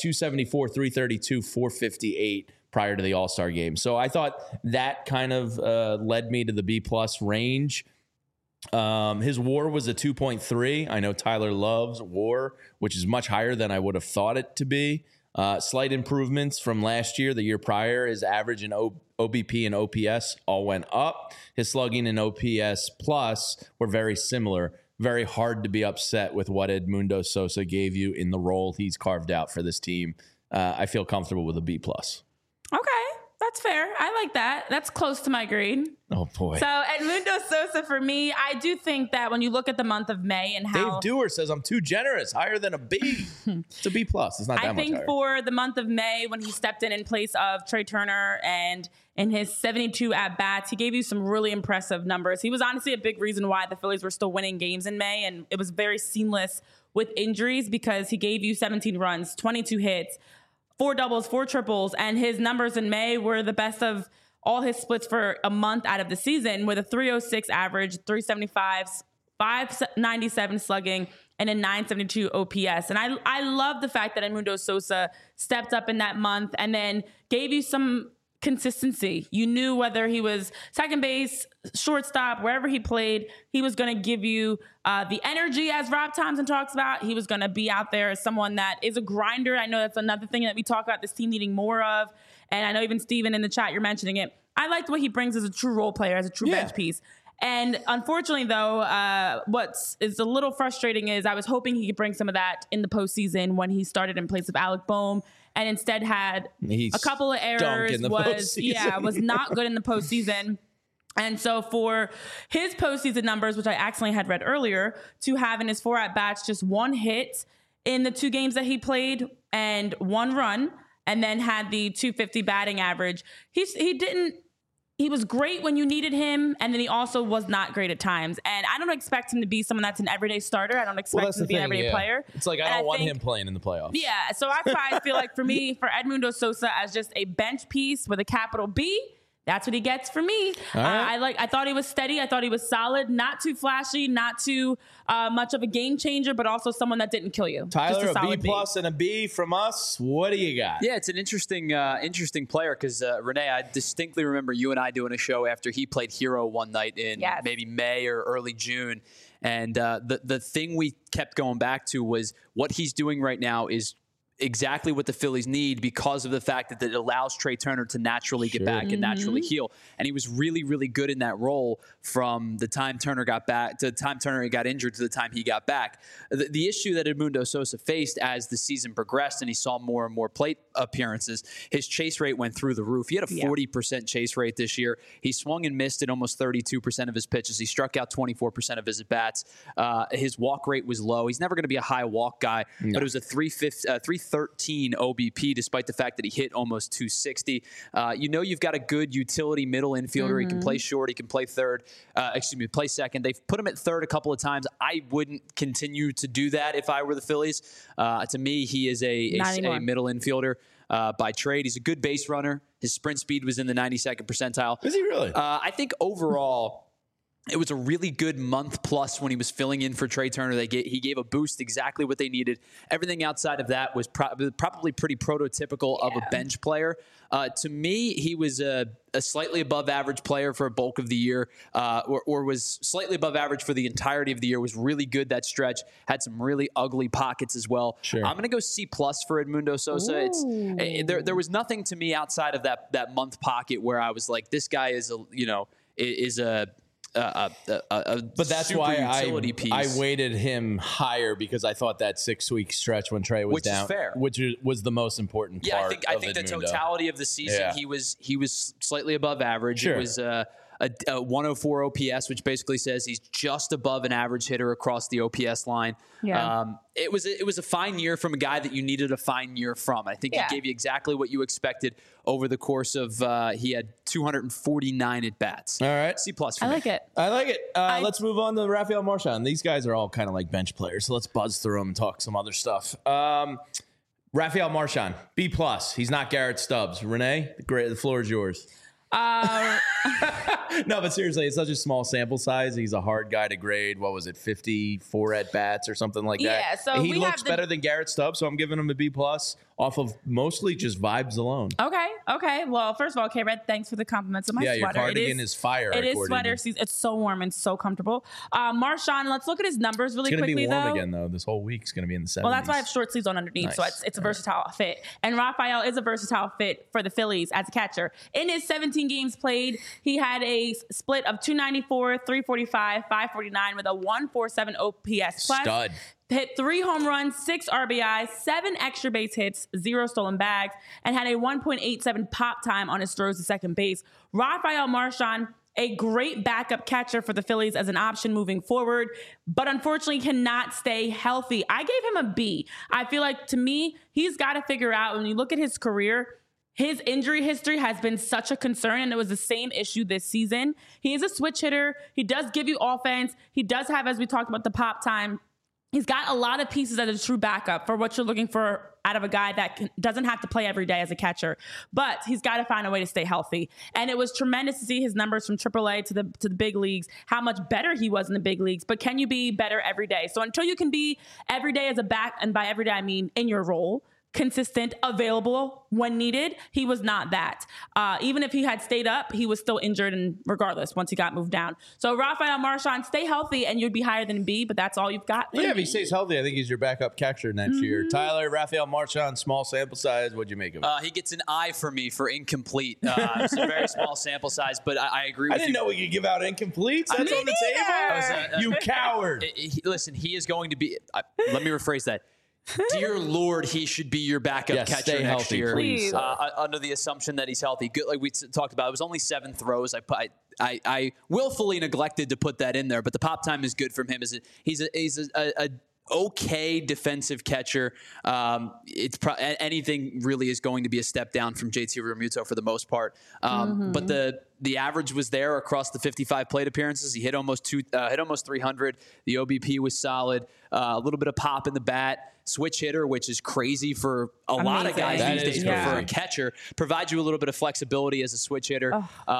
274, 332, 458. Prior to the All-Star game. So I thought that kind of led me to the B+ range. His WAR was a 2.3. I know Tyler loves WAR, which is much higher than I would have thought it to be. Slight improvements from last year, the year prior. His average in OBP and OPS all went up. His slugging and OPS plus were very similar. Very hard to be upset with what Edmundo Sosa gave you in the role he's carved out for this team. I feel comfortable with a B+. Okay, that's fair. I like that. That's close to my grade. Oh, boy. So Edmundo Sosa, for me, I do think that when you look at the month of May and how... Dave Dewar says I'm too generous, higher than a B. It's a B+. It's not that much higher. I think for the month of May, when he stepped in place of Trey Turner and in his 72 at-bats, he gave you some really impressive numbers. He was honestly a big reason why the Phillies were still winning games in May, and it was very seamless with injuries because he gave you 17 runs, 22 hits, 4 doubles, 4 triples, and his numbers in May were the best of all his splits for a month out of the season with a 306 average, 375, 597 slugging, and a 972 OPS. And I love the fact that Edmundo Sosa stepped up in that month and then gave you some consistency. You knew whether he was second base, shortstop, wherever he played, he was going to give you the energy, as Rob Thompson talks about. He was going to be out there as someone that is a grinder. I know that's another thing that we talk about this team needing more of. And I know even Steven in the chat, you're mentioning it. I liked what he brings as a true role player, as a true bench piece. And unfortunately, though, what's is a little frustrating is I was hoping he could bring some of that in the postseason when he started in place of Alec Boehm, and instead had a couple of errors. Was not good in the postseason. And so for his postseason numbers, which I accidentally had read earlier, to have in his 4 at-bats just 1 hit in the 2 games that he played and 1 run, and then had the 250 batting average. He was great when you needed him, and then he also was not great at times. And I don't expect him to be someone that's an everyday starter. I don't expect him to be an everyday player. It's like I don't want him playing in the playoffs. Yeah, so that's why I feel like for me, for Edmundo Sosa as just a bench piece with a capital B, That's what he gets from me. right. I thought he was steady. I thought he was solid. Not too flashy. Not too much of a game changer, but also someone that didn't kill you. Tyler, Just a B solid plus and a B from us. What do you got? Yeah, it's an interesting player because Renee, I distinctly remember you and I doing a show after he played Hero one night in maybe May or early June, and the thing we kept going back to was what he's doing right now is exactly what the Phillies need because of the fact that it allows Trey Turner to naturally get back and naturally heal. And he was really, really good in that role from the time Turner got back to the time Turner got injured to the time he got back. The issue that Edmundo Sosa faced as the season progressed and he saw more and more plate appearances, his chase rate went through the roof. He had a 40% chase rate this year. He swung and missed at almost 32% of his pitches. He struck out 24% of his at-bats. His walk rate was low. He's never going to be a high walk guy, but it was a 313 OBP, despite the fact that he hit almost 260. You've got a good utility middle infielder. He can play short. He can play play second. They've put him at third a couple of times. I wouldn't continue to do that if I were the Phillies. To me, he is a middle infielder by trade. He's a good base runner. His sprint speed was in the 92nd percentile. Is he really? I think overall, it was a really good month plus when he was filling in for Trey Turner. He gave a boost, exactly what they needed. Everything outside of that was probably pretty prototypical of a bench player. To me, he was a slightly above average player for a bulk of the year, or was slightly above average for the entirety of the year. Was really good that stretch. Had some really ugly pockets as well. Sure. I'm going to go C plus for Edmundo Sosa. There was nothing to me outside of that month pocket where I was like, this guy is a but that's super why utility piece. I weighted him higher because I thought that 6-week stretch when Trey was down, is fair. which was the most important part. I think the totality of the season, he was slightly above average. Sure. It was a 104 OPS, which basically says he's just above an average hitter across the OPS line. Yeah. It was a fine year from a guy that you needed a fine year from. I think he gave you exactly what you expected over the course of. He had 249 at bats. All right, C plus. I like it. I like it. Let's move on to Rafael Marchand. These guys are all kind of like bench players, so let's buzz through them and talk some other stuff. Rafael Marchand, B plus. He's not Garrett Stubbs. Renee, the floor is yours. No, but seriously, it's such a small sample size. He's a hard guy to grade. What was it, 54 at bats or something like that? Yeah, so he looks better than Garrett Stubbs, so I'm giving him a B plus off of mostly just vibes alone. Okay. Well, first of all, K-Red, thanks for the compliments on my sweater. Your cardigan is fire. It is sweater season. It's so warm and so comfortable. Marchand, let's look at his numbers really quickly, though. It's going to be warm again, though. This whole week's going to be in the 70s. Well, that's why I have short sleeves on underneath, so it's a versatile fit. And Rafael is a versatile fit for the Phillies as a catcher. In his 17 games played, he had a split of 294, 345, 549 with a 147 OPS plus. Stud. Hit 3 home runs, 6 RBIs, 7 extra base hits, 0 stolen bags, and had a 1.87 pop time on his throws to second base. Rafael Marchand, a great backup catcher for the Phillies as an option moving forward, but unfortunately cannot stay healthy. I gave him a B. I feel like, to me, he's got to figure out, when you look at his career, his injury history has been such a concern, and it was the same issue this season. He is a switch hitter. He does give you offense. He does have, as we talked about, the pop time. He's got a lot of pieces as a true backup for what you're looking for out of a guy that doesn't have to play every day as a catcher. But he's got to find a way to stay healthy. And it was tremendous to see his numbers from AAA to the big leagues, how much better he was in the big leagues. But can you be better every day? So until you can be every day as a back, and by every day I mean in your role, consistent, available when needed, he was not that. Even if he had stayed up, he was still injured, and regardless, once he got moved down. So Rafael Marchand, stay healthy and you'd be higher than B, but that's all you've got. Yeah, if he stays healthy, I think he's your backup catcher next year. Tyler, Rafael Marchand, small sample size. What'd you make of it? He gets an I for me for incomplete. It's a very small sample size, but I agree with you. I didn't know we could give out incompletes. That's on the table. You coward. Listen, he is going to be. Let me rephrase that. Dear Lord, he should be your backup catcher next year. Please. Under the assumption that he's healthy. Good, like we talked about, it was only 7 throws. I willfully neglected to put that in there, but the pop time is good from him. He's a okay defensive catcher. Anything really is going to be a step down from JT Realmuto for the most part. But the average was there across the 55 plate appearances. He hit almost 300. The OBP was solid. A little bit of pop in the bat. switch hitter, which is crazy for a lot of guys Amazing. these That days. is But for a crazy. catcher, provides you a little bit of flexibility as a switch hitter.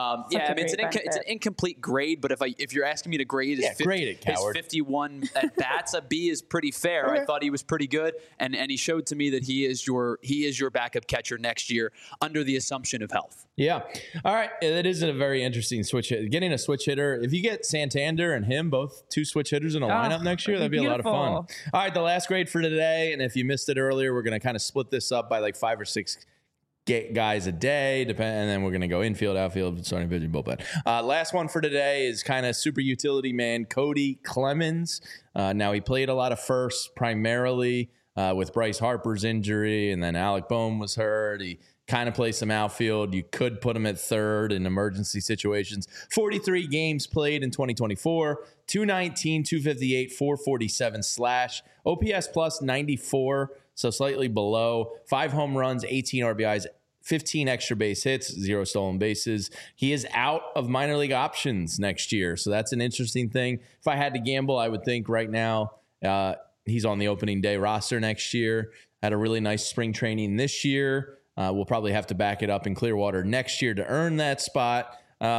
It's an incomplete grade, but if you're asking me to grade grade it, his coward. 51 at bats, a B is pretty fair. I thought he was pretty good, and he showed to me that he is your backup catcher next year under the assumption of health. Yeah. All right. It is a very interesting switch hit. Getting a switch hitter, if you get Santander and him, both two switch hitters in a lineup next year, that'd be a lot of fun. beautiful. All right. The last grade for today. And if you missed it earlier, we're going to kind of split this up by like 5 or 6 guys a day, and then we're going to go infield, outfield, starting pitching, bullpen. Last one for today is kind of super utility man, Cody Clemens. Now, he played a lot of first primarily with Bryce Harper's injury, and then Alec Boehm was hurt. He kind of plays some outfield. You could put him at third in emergency situations. 43 games played in 2024, 219, 258, 447 slash. OPS plus 94, so slightly below. 5 home runs, 18 RBIs, 15 extra base hits, 0 stolen bases. He is out of minor league options next year, so that's an interesting thing. If I had to gamble, I would think right now he's on the opening day roster next year. Had a really nice spring training this year. We'll probably have to back it up in Clearwater next year to earn that spot.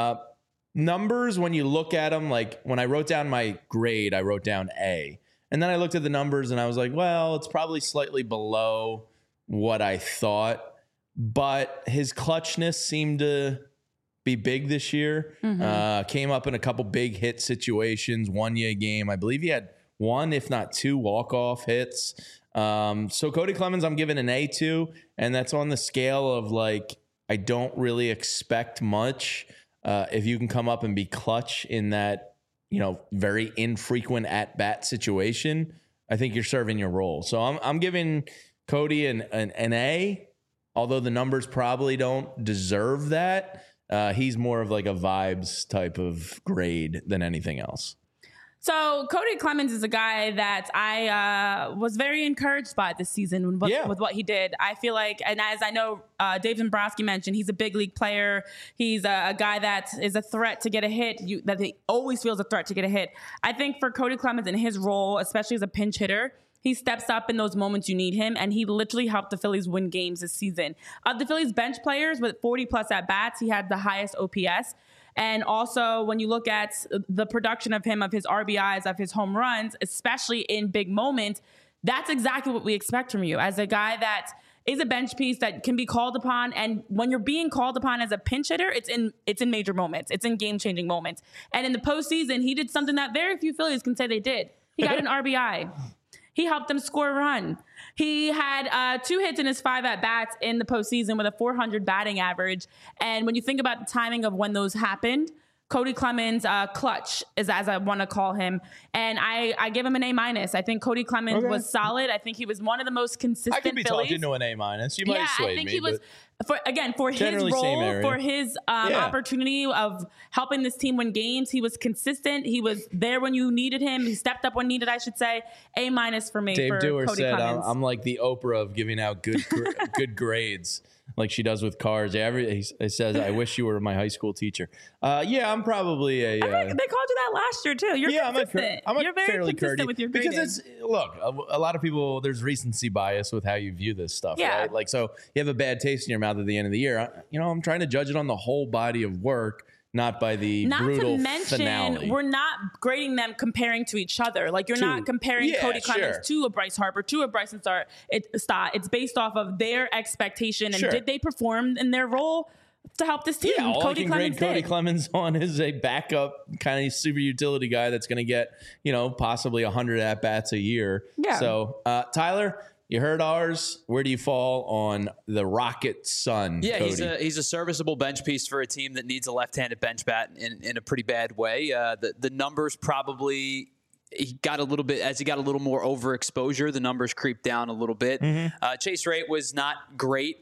Numbers, when you look at them, like when I wrote down my grade, I wrote down A. And then I looked at the numbers and I was like, well, it's probably slightly below what I thought. But his clutchness seemed to be big this year. Came up in a couple big hit situations, won you a game. I believe he had 1, if not 2, walk-off hits. So Cody Clemens, I'm giving an A to, and that's on the scale of like, I don't really expect much. If you can come up and be clutch in that, very infrequent at-bat situation, I think you're serving your role. So I'm giving Cody an A, although the numbers probably don't deserve that. He's more of like a vibes type of grade than anything else. So Cody Clemens is a guy that I was very encouraged by this season with what he did. I feel like, and as I know Dave Dombrowski mentioned, he's a big league player. He's a guy that is a threat to get a hit, that he always feels a threat to get a hit. I think for Cody Clemens in his role, especially as a pinch hitter, he steps up in those moments you need him, and he literally helped the Phillies win games this season. Of the Phillies bench players with 40-plus at-bats, he had the highest OPS. And also, when you look at the production of him, of his RBIs, of his home runs, especially in big moments, that's exactly what we expect from you as a guy that is a bench piece that can be called upon. And when you're being called upon as a pinch hitter, it's in major moments. It's in game-changing moments. And in the postseason, he did something that very few Phillies can say they did. He got an RBI. He helped them score a run. He had 2 hits in his 5 at-bats in the postseason with a .400 batting average. And when you think about the timing of when those happened, Cody Clemens, clutch is as I want to call him. And I give him an A-. I think Cody Clemens was solid. I think he was one of the most consistent I could be Phillies. talking to an A-. You might have swayed I think me, he was, for his generally same role, area. for his opportunity of helping this team win games. He was consistent. He was there when you needed him. He stepped up when needed, I should say. A- for me Dave for Dewar Cody said, Clemens. I'm like the Oprah of giving out good good grades, like she does with cars. He says, I wish you were my high school teacher. I'm probably a... They called you that last year, too. You're consistent. You're very fairly consistent with your grading. because a lot of people, there's recency bias with how you view this stuff, Yeah. right? Like, so you have a bad taste in your mouth at the end of the year. I'm trying to judge it on the whole body of work, not by the brutal Not to mention, finale. we're not grading them comparing to each other. Like, you're not comparing Cody Clemens to a Bryce Harper, to a Bryson Stott. It's based off of their expectation and did they perform in their role to help this team. Yeah, all Cody I can Clemens grade Cody did. Clemens on is a backup kind of super utility guy that's going to get, possibly 100 at-bats a year. Yeah. So, Tyler, you heard ours. Where do you fall on the Rocket Sun? Yeah, Cody? he's a serviceable bench piece for a team that needs a left-handed bench bat in a pretty bad way. The numbers probably... He got a little bit, as he got a little more overexposure, the numbers creeped down a little bit. Chase rate was not great,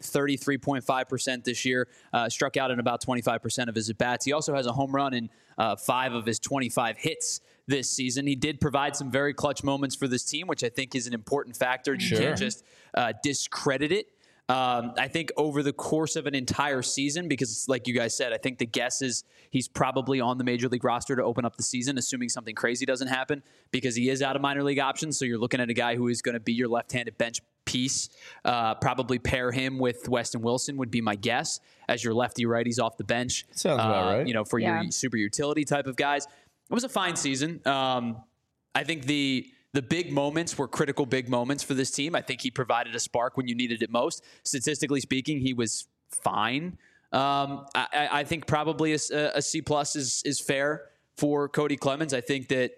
33.5% this year, struck out in about 25% of his at-bats. He also has a home run in 5 of his 25 hits this season. He did provide some very clutch moments for this team, which I think is an important factor. You can't just discredit it. I think over the course of an entire season, because like you guys said, I think the guess is he's probably on the major league roster to open up the season, assuming something crazy doesn't happen, because he is out of minor league options. So you're looking at a guy who is going to be your left-handed bench piece. Probably pair him with Weston Wilson would be my guess as your lefty righties off the bench. Sounds about right. For your super utility type of guys. It was a fine season. I think the big moments were critical big moments for this team. I think he provided a spark when you needed it most. Statistically speaking, he was fine. I think probably a C+ is fair for Cody Clemens. I think that,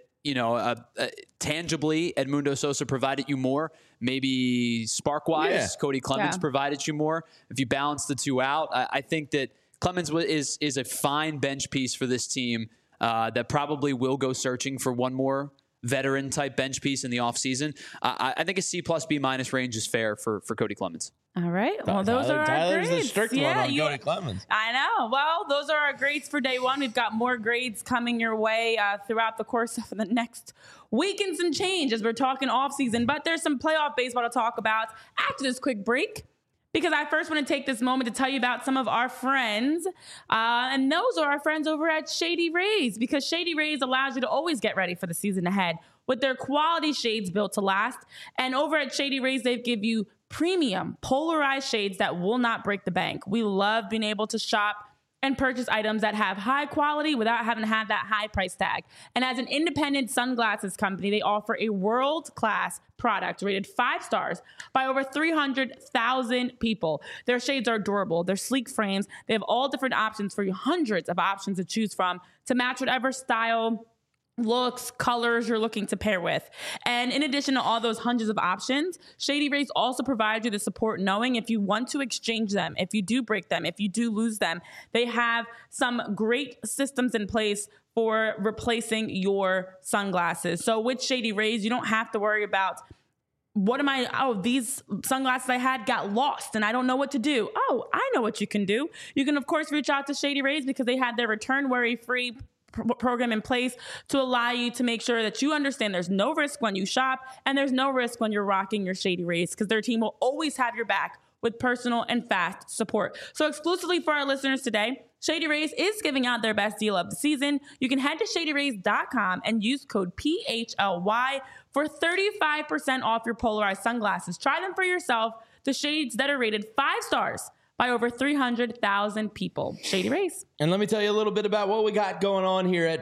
tangibly, Edmundo Sosa provided you more. Maybe spark-wise, Cody Clemens provided you more. If you balance the two out, I think that Clemens is a fine bench piece for this team that probably will go searching for one more veteran type bench piece in the offseason. I think a C+ B- range is fair for Cody Clemens. All right. Well, those are our Tyler's grades. the strict one on Cody Clemens. I know. Well, those are our grades for day one. We've got more grades coming your way throughout the course of the next week and some change as we're talking offseason. But there's some playoff baseball to talk about after this quick break, because I first want to take this moment to tell you about some of our friends. And those are our friends over at Shady Rays, because Shady Rays allows you to always get ready for the season ahead with their quality shades built to last. And over at Shady Rays, they give you premium polarized shades that will not break the bank. We love being able to shop and purchase items that have high quality without having to have that high price tag. And as an independent sunglasses company, they offer a world-class product rated 5 stars by over 300,000 people. Their shades are durable. They're sleek frames. They have all different options for you, hundreds of options to choose from to match whatever style, looks, colors you're looking to pair with. And in addition to all those hundreds of options, Shady Rays also provide you the support knowing if you want to exchange them, if you do break them, if you do lose them, they have some great systems in place for replacing your sunglasses. So with Shady Rays, you don't have to worry about these sunglasses I had got lost and I don't know what to do. Oh, I know what you can do. You can, of course, reach out to Shady Rays because they have their return worry-free program in place to allow you to make sure that you understand there's no risk when you shop and there's no risk when you're rocking your Shady Rays, because their team will always have your back with personal and fast support. So exclusively for our listeners today, Shady Rays is giving out their best deal of the season. You can head to shadyrays.com and use code PHLY for 35% off your polarized sunglasses. Try them for yourself. The shades that are rated 5 stars by over 300,000 people. Shady Rays. And let me tell you a little bit about what we got going on here at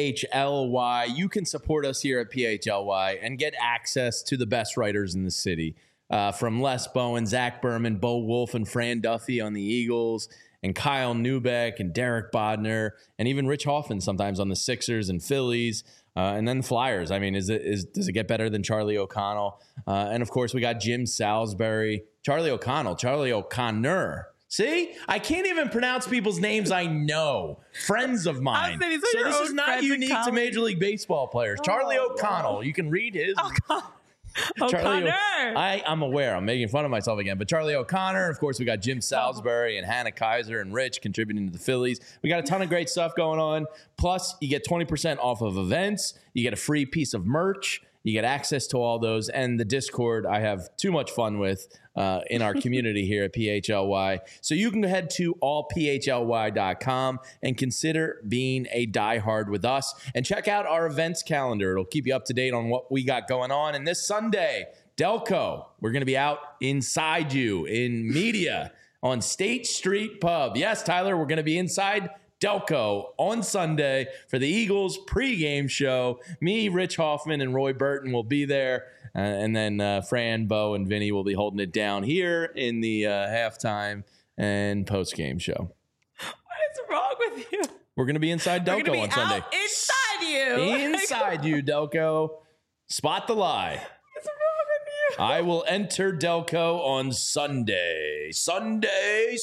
PHLY. You can support us here at PHLY and get access to the best writers in the city. From Les Bowen, Zach Berman, Bo Wolf, and Fran Duffy on the Eagles, and Kyle Neubeck and Derek Bodner, and even Rich Hoffman sometimes on the Sixers and Phillies, and then the Flyers. I mean, does it get better than Charlie O'Connell? And, of course, we got Jim Salisbury, Charlie O'Connor. See? I can't even pronounce people's names I know. Friends of mine. So this is not unique to Major League Baseball players. Charlie O'Connell. You can read his. O'Connor. I'm aware. I'm making fun of myself again. But Charlie O'Connor, of course, we got Jim Salisbury and Hannah Kaiser and Rich contributing to the Phillies. We got a ton of great stuff going on. Plus, you get 20% off of events. You get a free piece of merch. You get access to all those. And the Discord I have too much fun with in our community here at PHLY. So you can head to allphly.com and consider being a diehard with us. And check out our events calendar. It'll keep you up to date on what we got going on. And this Sunday, Delco, we're going to be out inside you in media on State Street Pub. Yes, Tyler, we're going to be inside Delco on Sunday for the Eagles pregame show. Me, Rich Hoffman, and Roy Burton will be there. And then Fran, Bo, and Vinny will be holding it down here in the halftime and postgame show. What is wrong with you? We're going to be inside Delco on Sunday. Inside you. Inside you, Delco. Spot the lie. What's wrong with you? I will enter Delco on Sunday. Sunday.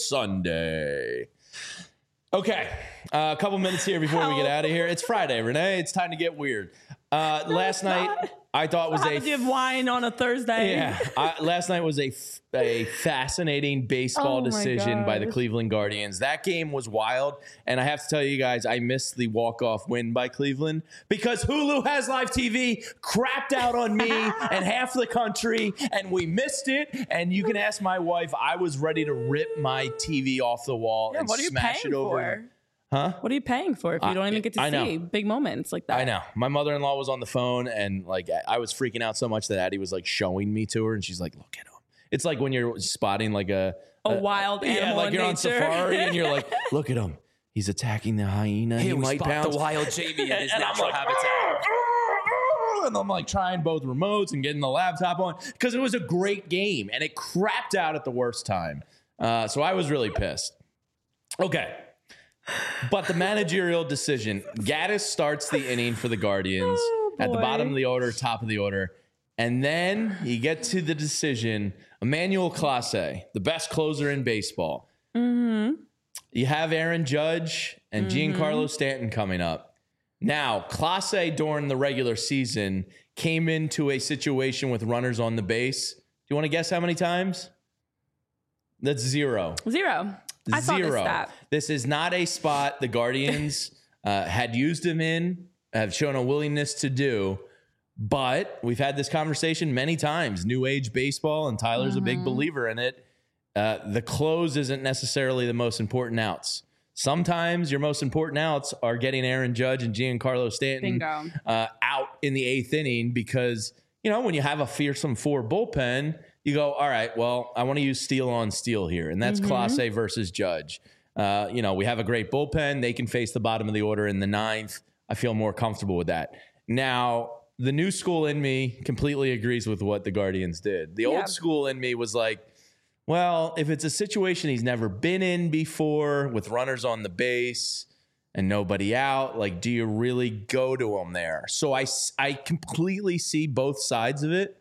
Okay, a couple minutes here before we get out of here. It's Friday, Renee. It's time to get weird. Last night, I thought was How did you have wine on a Thursday? Yeah, last night was a fascinating baseball Oh my decision by the gosh. Cleveland Guardians. That game was wild, and I have to tell you guys, I missed the walk-off win by Cleveland because Hulu has live TV crapped out on me and half the country, and we missed it. And you can ask my wife, I was ready to rip my TV off the wall and What are you smash paying it over. for? Huh? What are you paying for if you don't even get to I know. see big moments like that? I know. My mother-in-law was on the phone, and like I was freaking out so much that Addie was like showing me to her, and she's like, "Look at him." It's like when you're spotting like a wild animal like in you're on nature. safari, and you're like, "Look at him. He's attacking the hyena. He we might spot pounce." the wild Jamie in his And I'm natural like, habitat. and I'm like trying both remotes and getting the laptop on because it was a great game, and it crapped out at the worst time. So I was really pissed. Okay. But the managerial decision, Gaddis starts the inning for the Guardians at the boy. bottom of the order, top of the order. And then you get to the decision, Emmanuel Clase, the best closer in baseball. You have Aaron Judge and Giancarlo Stanton coming up. Now, Clase during the regular season came into a situation with runners on the base. Do you want to guess how many times? That's 0. 0. I saw this 0. stat. This is not a spot the Guardians had used him in, have shown a willingness to do. But we've had this conversation many times. New age baseball, and Tyler's a big believer in it. The close isn't necessarily the most important outs. Sometimes your most important outs are getting Aaron Judge and Giancarlo Stanton Bingo. out in the 8th inning because, you know, when you have a fearsome 4 bullpen, you go, all right, well, I want to use steel on steel here. And that's Clase versus Judge. You know, we have a great bullpen. They can face the bottom of the order in the 9th. I feel more comfortable with that. Now, the new school in me completely agrees with what the Guardians did. The old school in me was like, well, if it's a situation he's never been in before with runners on the base and nobody out, like, do you really go to him there? So I completely see both sides of it.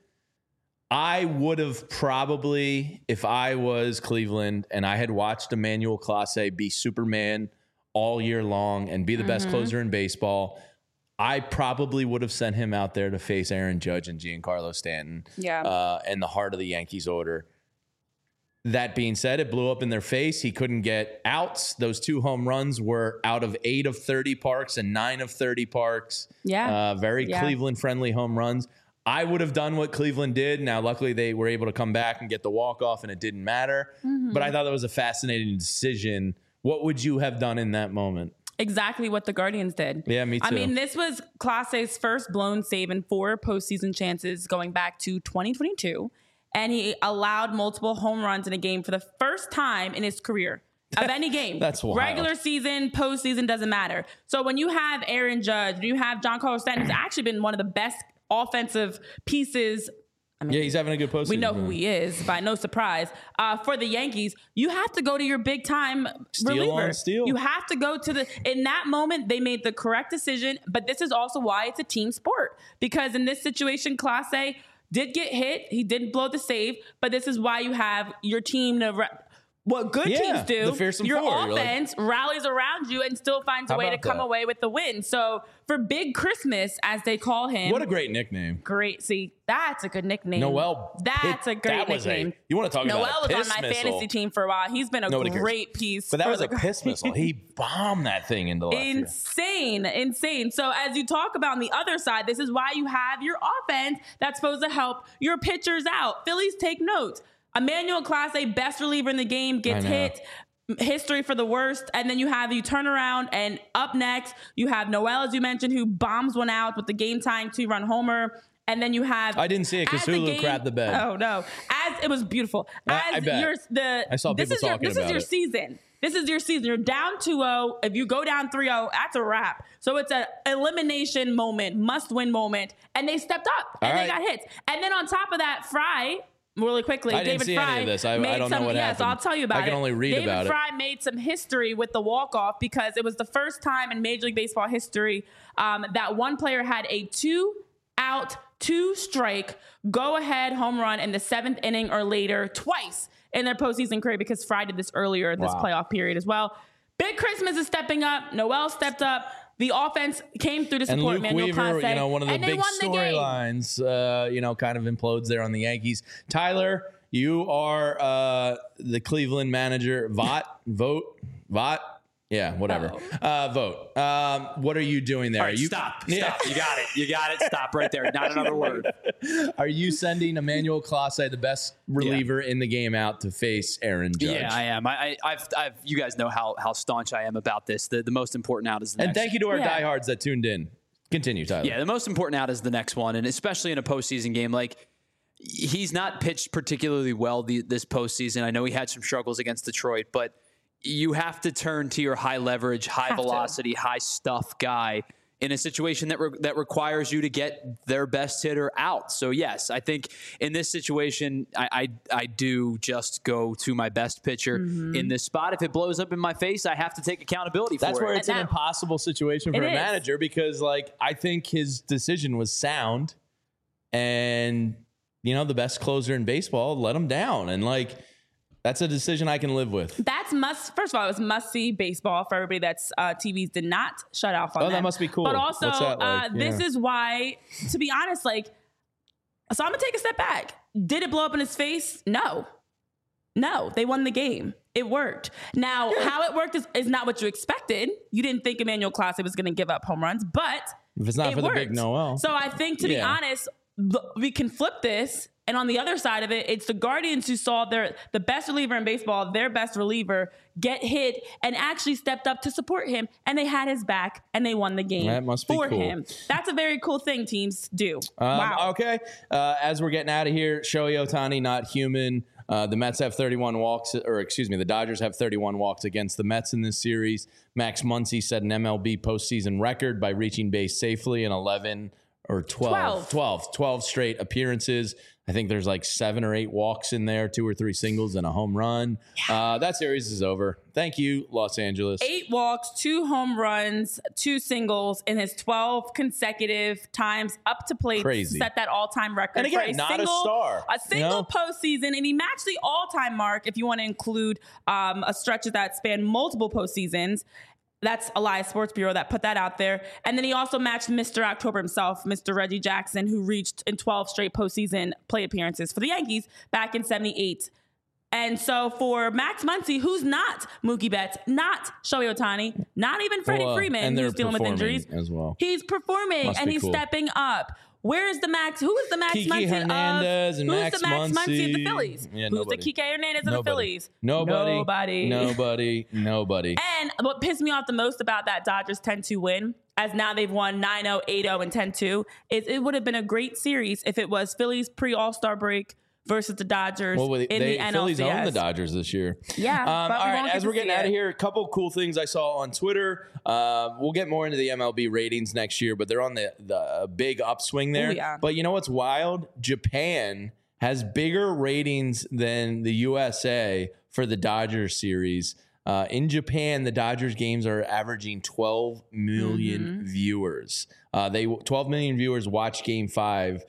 I would have probably, if I was Cleveland and I had watched Emmanuel Clase be Superman all year long and be the best closer in baseball, I probably would have sent him out there to face Aaron Judge and Giancarlo Stanton in the heart of the Yankees order. That being said, it blew up in their face. He couldn't get outs. Those 2 home runs were out of 8 of 30 parks and 9 of 30 parks. Very Cleveland-friendly home runs. I would have done what Cleveland did. Now, luckily, they were able to come back and get the walk-off, and it didn't matter. But I thought that was a fascinating decision. What would you have done in that moment? Exactly what the Guardians did. Yeah, me too. I mean, this was Clase's first blown save in 4 postseason chances going back to 2022. And he allowed multiple home runs in a game for the first time in his career of any game. That's wild. Regular season, postseason, doesn't matter. So when you have Aaron Judge, when you have Giancarlo Stanton, who's actually been one of the best offensive pieces. I mean, Yeah, he's having a good postseason. we know who he is, by no surprise. For the Yankees, you have to go to your big time reliever. on steel. You have to go to in that moment, they made the correct decision. But this is also why it's a team sport. Because in this situation, Clase did get hit. He didn't blow the save. But this is why you have your team to what good teams do. the fearsome Your 4. You're like, offense rallies around you and still finds a How way to about come that? away with the win. So for Big Christmas, as they call him. what a great nickname. Great. See, that's a good nickname. Noel. That's a great that was nickname. you want to talk Noel about a was piss on my missile. fantasy team for a while. He's been a Nobody cares. great piece. But that for was the a piss missile. He bombed that thing into left field. Insane. So as you talk about on the other side, this is why you have your offense that's supposed to help your pitchers out. Phillies, take notes. Emmanuel Clase, best reliever in the game, gets I know. hit. History for the worst. And then you turn around, and up next, you have Noel, as you mentioned, who bombs one out with the game-tying 2-run homer. And then you have... I didn't see it because Hulu crapped the bed. Oh, no. It was beautiful. I bet. I saw people talking This is about your it. season. This is your season. You're down 2-0. If you go down 3-0, that's a wrap. So it's an elimination moment, must-win moment. And they stepped up, and All they right. got hits. And then on top of that, Fry... Really quickly, I didn't David see Fry any of this. I made don't know some. what So happened. I'll tell you about it. I can only read David about it. Fry made some history with the walk-off because it was the first time in Major League Baseball history that one player had a 2-out, 2-strike, go-ahead home run in the 7th inning or later twice in their postseason career, because Fry did this earlier in this playoff period as well. Big Christmas is stepping up. Noel stepped up. The offense came through to And support Luke Manuel Weaver, Clase, one of the and they big won the game. storylines, kind of implodes there on the Yankees. Tyler, you are the Cleveland manager. Vote. Yeah, whatever. Vote. What are you doing there? All right, stop. You got it. Stop right there. Not another word. Are you sending Emmanuel Clase, the best reliever in the game, out to face Aaron Judge? Yeah, I am. I've you guys know how staunch I am about this. The most important out is the And next. thank you to our diehards that tuned in. Continue, Tyler. Yeah, the most important out is the next one, and especially in a postseason game. Like, he's not pitched particularly well this postseason. I know he had some struggles against Detroit, but you have to turn to your high leverage, high velocity, high stuff guy in a situation that requires you to get their best hitter out. So yes, I think in this situation, I do just go to my best pitcher in this spot. If it blows up in my face, I have to take accountability for it. That's where it's an impossible situation for a manager because, I think his decision was sound, and the best closer in baseball let him down, and that's a decision I can live with. First of all, it was must-see baseball for everybody that's TVs did not shut off on them. That must be cool. But also, What's that like? this is why, to be honest, so I'm going to take a step back. Did it blow up in his face? No, they won the game. It worked. Now, how it worked is not what you expected. You didn't think Emmanuel Clase was going to give up home runs, but if it's not for worked. the big Noel. So I think, to be honest, we can flip this. And on the other side of it, it's the Guardians who saw the best reliever in baseball, their best reliever, get hit and actually stepped up to support him. And they had his back and they won the game that must be for cool. him. That's a very cool thing teams do. Wow. Okay. As we're getting out of here, Shohei Ohtani, not human. The Mets have 31 walks, the Dodgers have 31 walks against the Mets in this series. Max Muncy set an MLB postseason record by reaching base safely in 11 or 12 straight appearances. I think there's 7 or 8 walks in there, 2 or 3 singles and a home run. That series is over. Thank you, Los Angeles. 8 walks, 2 home runs, 2 singles in his 12 consecutive times up to plate. Crazy. Set that all-time record. And again, for not a star. A single postseason, and he matched the all-time mark if you want to include a stretch that spanned multiple postseasons. That's Elias Sports Bureau that put that out there. And then he also matched Mr. October himself, Mr. Reggie Jackson, who reached in 12 straight postseason plate appearances for the Yankees back in 78. And so for Max Muncy, who's not Mookie Betts, not Shohei Ohtani, not even Freddie Freeman, who's dealing with injuries as well. He's performing and he's stepping up. Where is the Max? Who is the Max Kiki Muncy Hernandez of? and Who's Max the Max Muncy of the Muncy? Phillies? Yeah, Who's the Kike Hernandez of the Phillies? Nobody. And what pissed me off the most about that Dodgers 10-2 win, as now they've won 9-0, 8-0, and 10-2, is it would have been a great series if it was Phillies pre-All-Star break versus the Dodgers in the NLCS. Phillies own the Dodgers this year. Yeah. All right, as we're getting out of here, a couple cool things I saw on Twitter. We'll get more into the MLB ratings next year, but they're on the big upswing there. Ooh, yeah. But you know what's wild? Japan has bigger ratings than the USA for the Dodgers series. In Japan, the Dodgers games are averaging 12 million viewers. 12 million viewers watch Game 5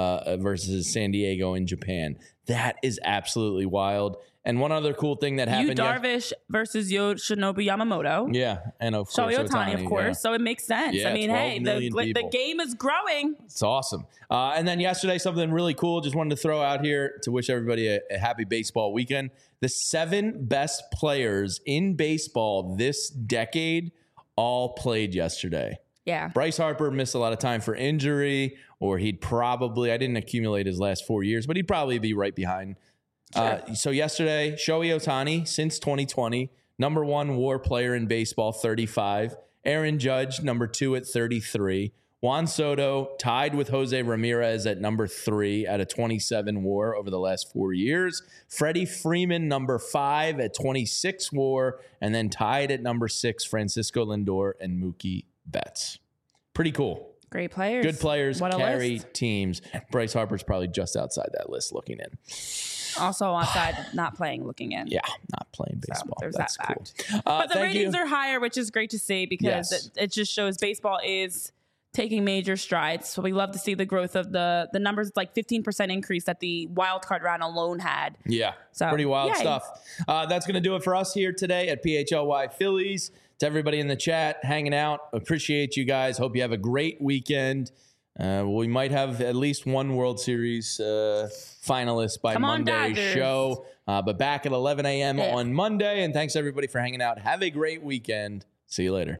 versus San Diego in Japan. That is absolutely wild. And one other cool thing that happened. Darvish versus Yoshinobu Yamamoto. Yeah, and of course Shohei Ohtani, of course. Yeah. So it makes sense. Yeah, I mean, hey, the game is growing. It's awesome. And then yesterday, something really cool. Just wanted to throw out here to wish everybody a happy baseball weekend. The 7 best players in baseball this decade all played yesterday. Yeah. Bryce Harper missed a lot of time for injury, or I didn't accumulate his last 4 years, but he'd probably be right behind. Sure. So yesterday, Shohei Ohtani, since 2020, number 1 WAR player in baseball, 35. Aaron Judge, number 2 at 33. Juan Soto tied with Jose Ramirez at number 3 at a 27 WAR over the last 4 years. Freddie Freeman, number 5 at 26 WAR, and then tied at number 6, Francisco Lindor and Mookie Betts. Pretty cool. Great players. Good players carry list. teams. Bryce Harper's probably just outside that list looking in. Also outside, not playing, looking in. Yeah, not playing baseball. So there's That's that cool. fact. But the ratings are higher, which is great to see because it just shows baseball is taking major strides. So we love to see the growth of the numbers, like 15% increase that the wild card round alone had. Yeah, so pretty wild stuff. That's going to do it for us here today at PHLY Phillies. To everybody in the chat hanging out, appreciate you guys. Hope you have a great weekend. We might have at least one World Series finalist by Monday's show. But back at 11 a.m. on Monday. And thanks, everybody, for hanging out. Have a great weekend. See you later.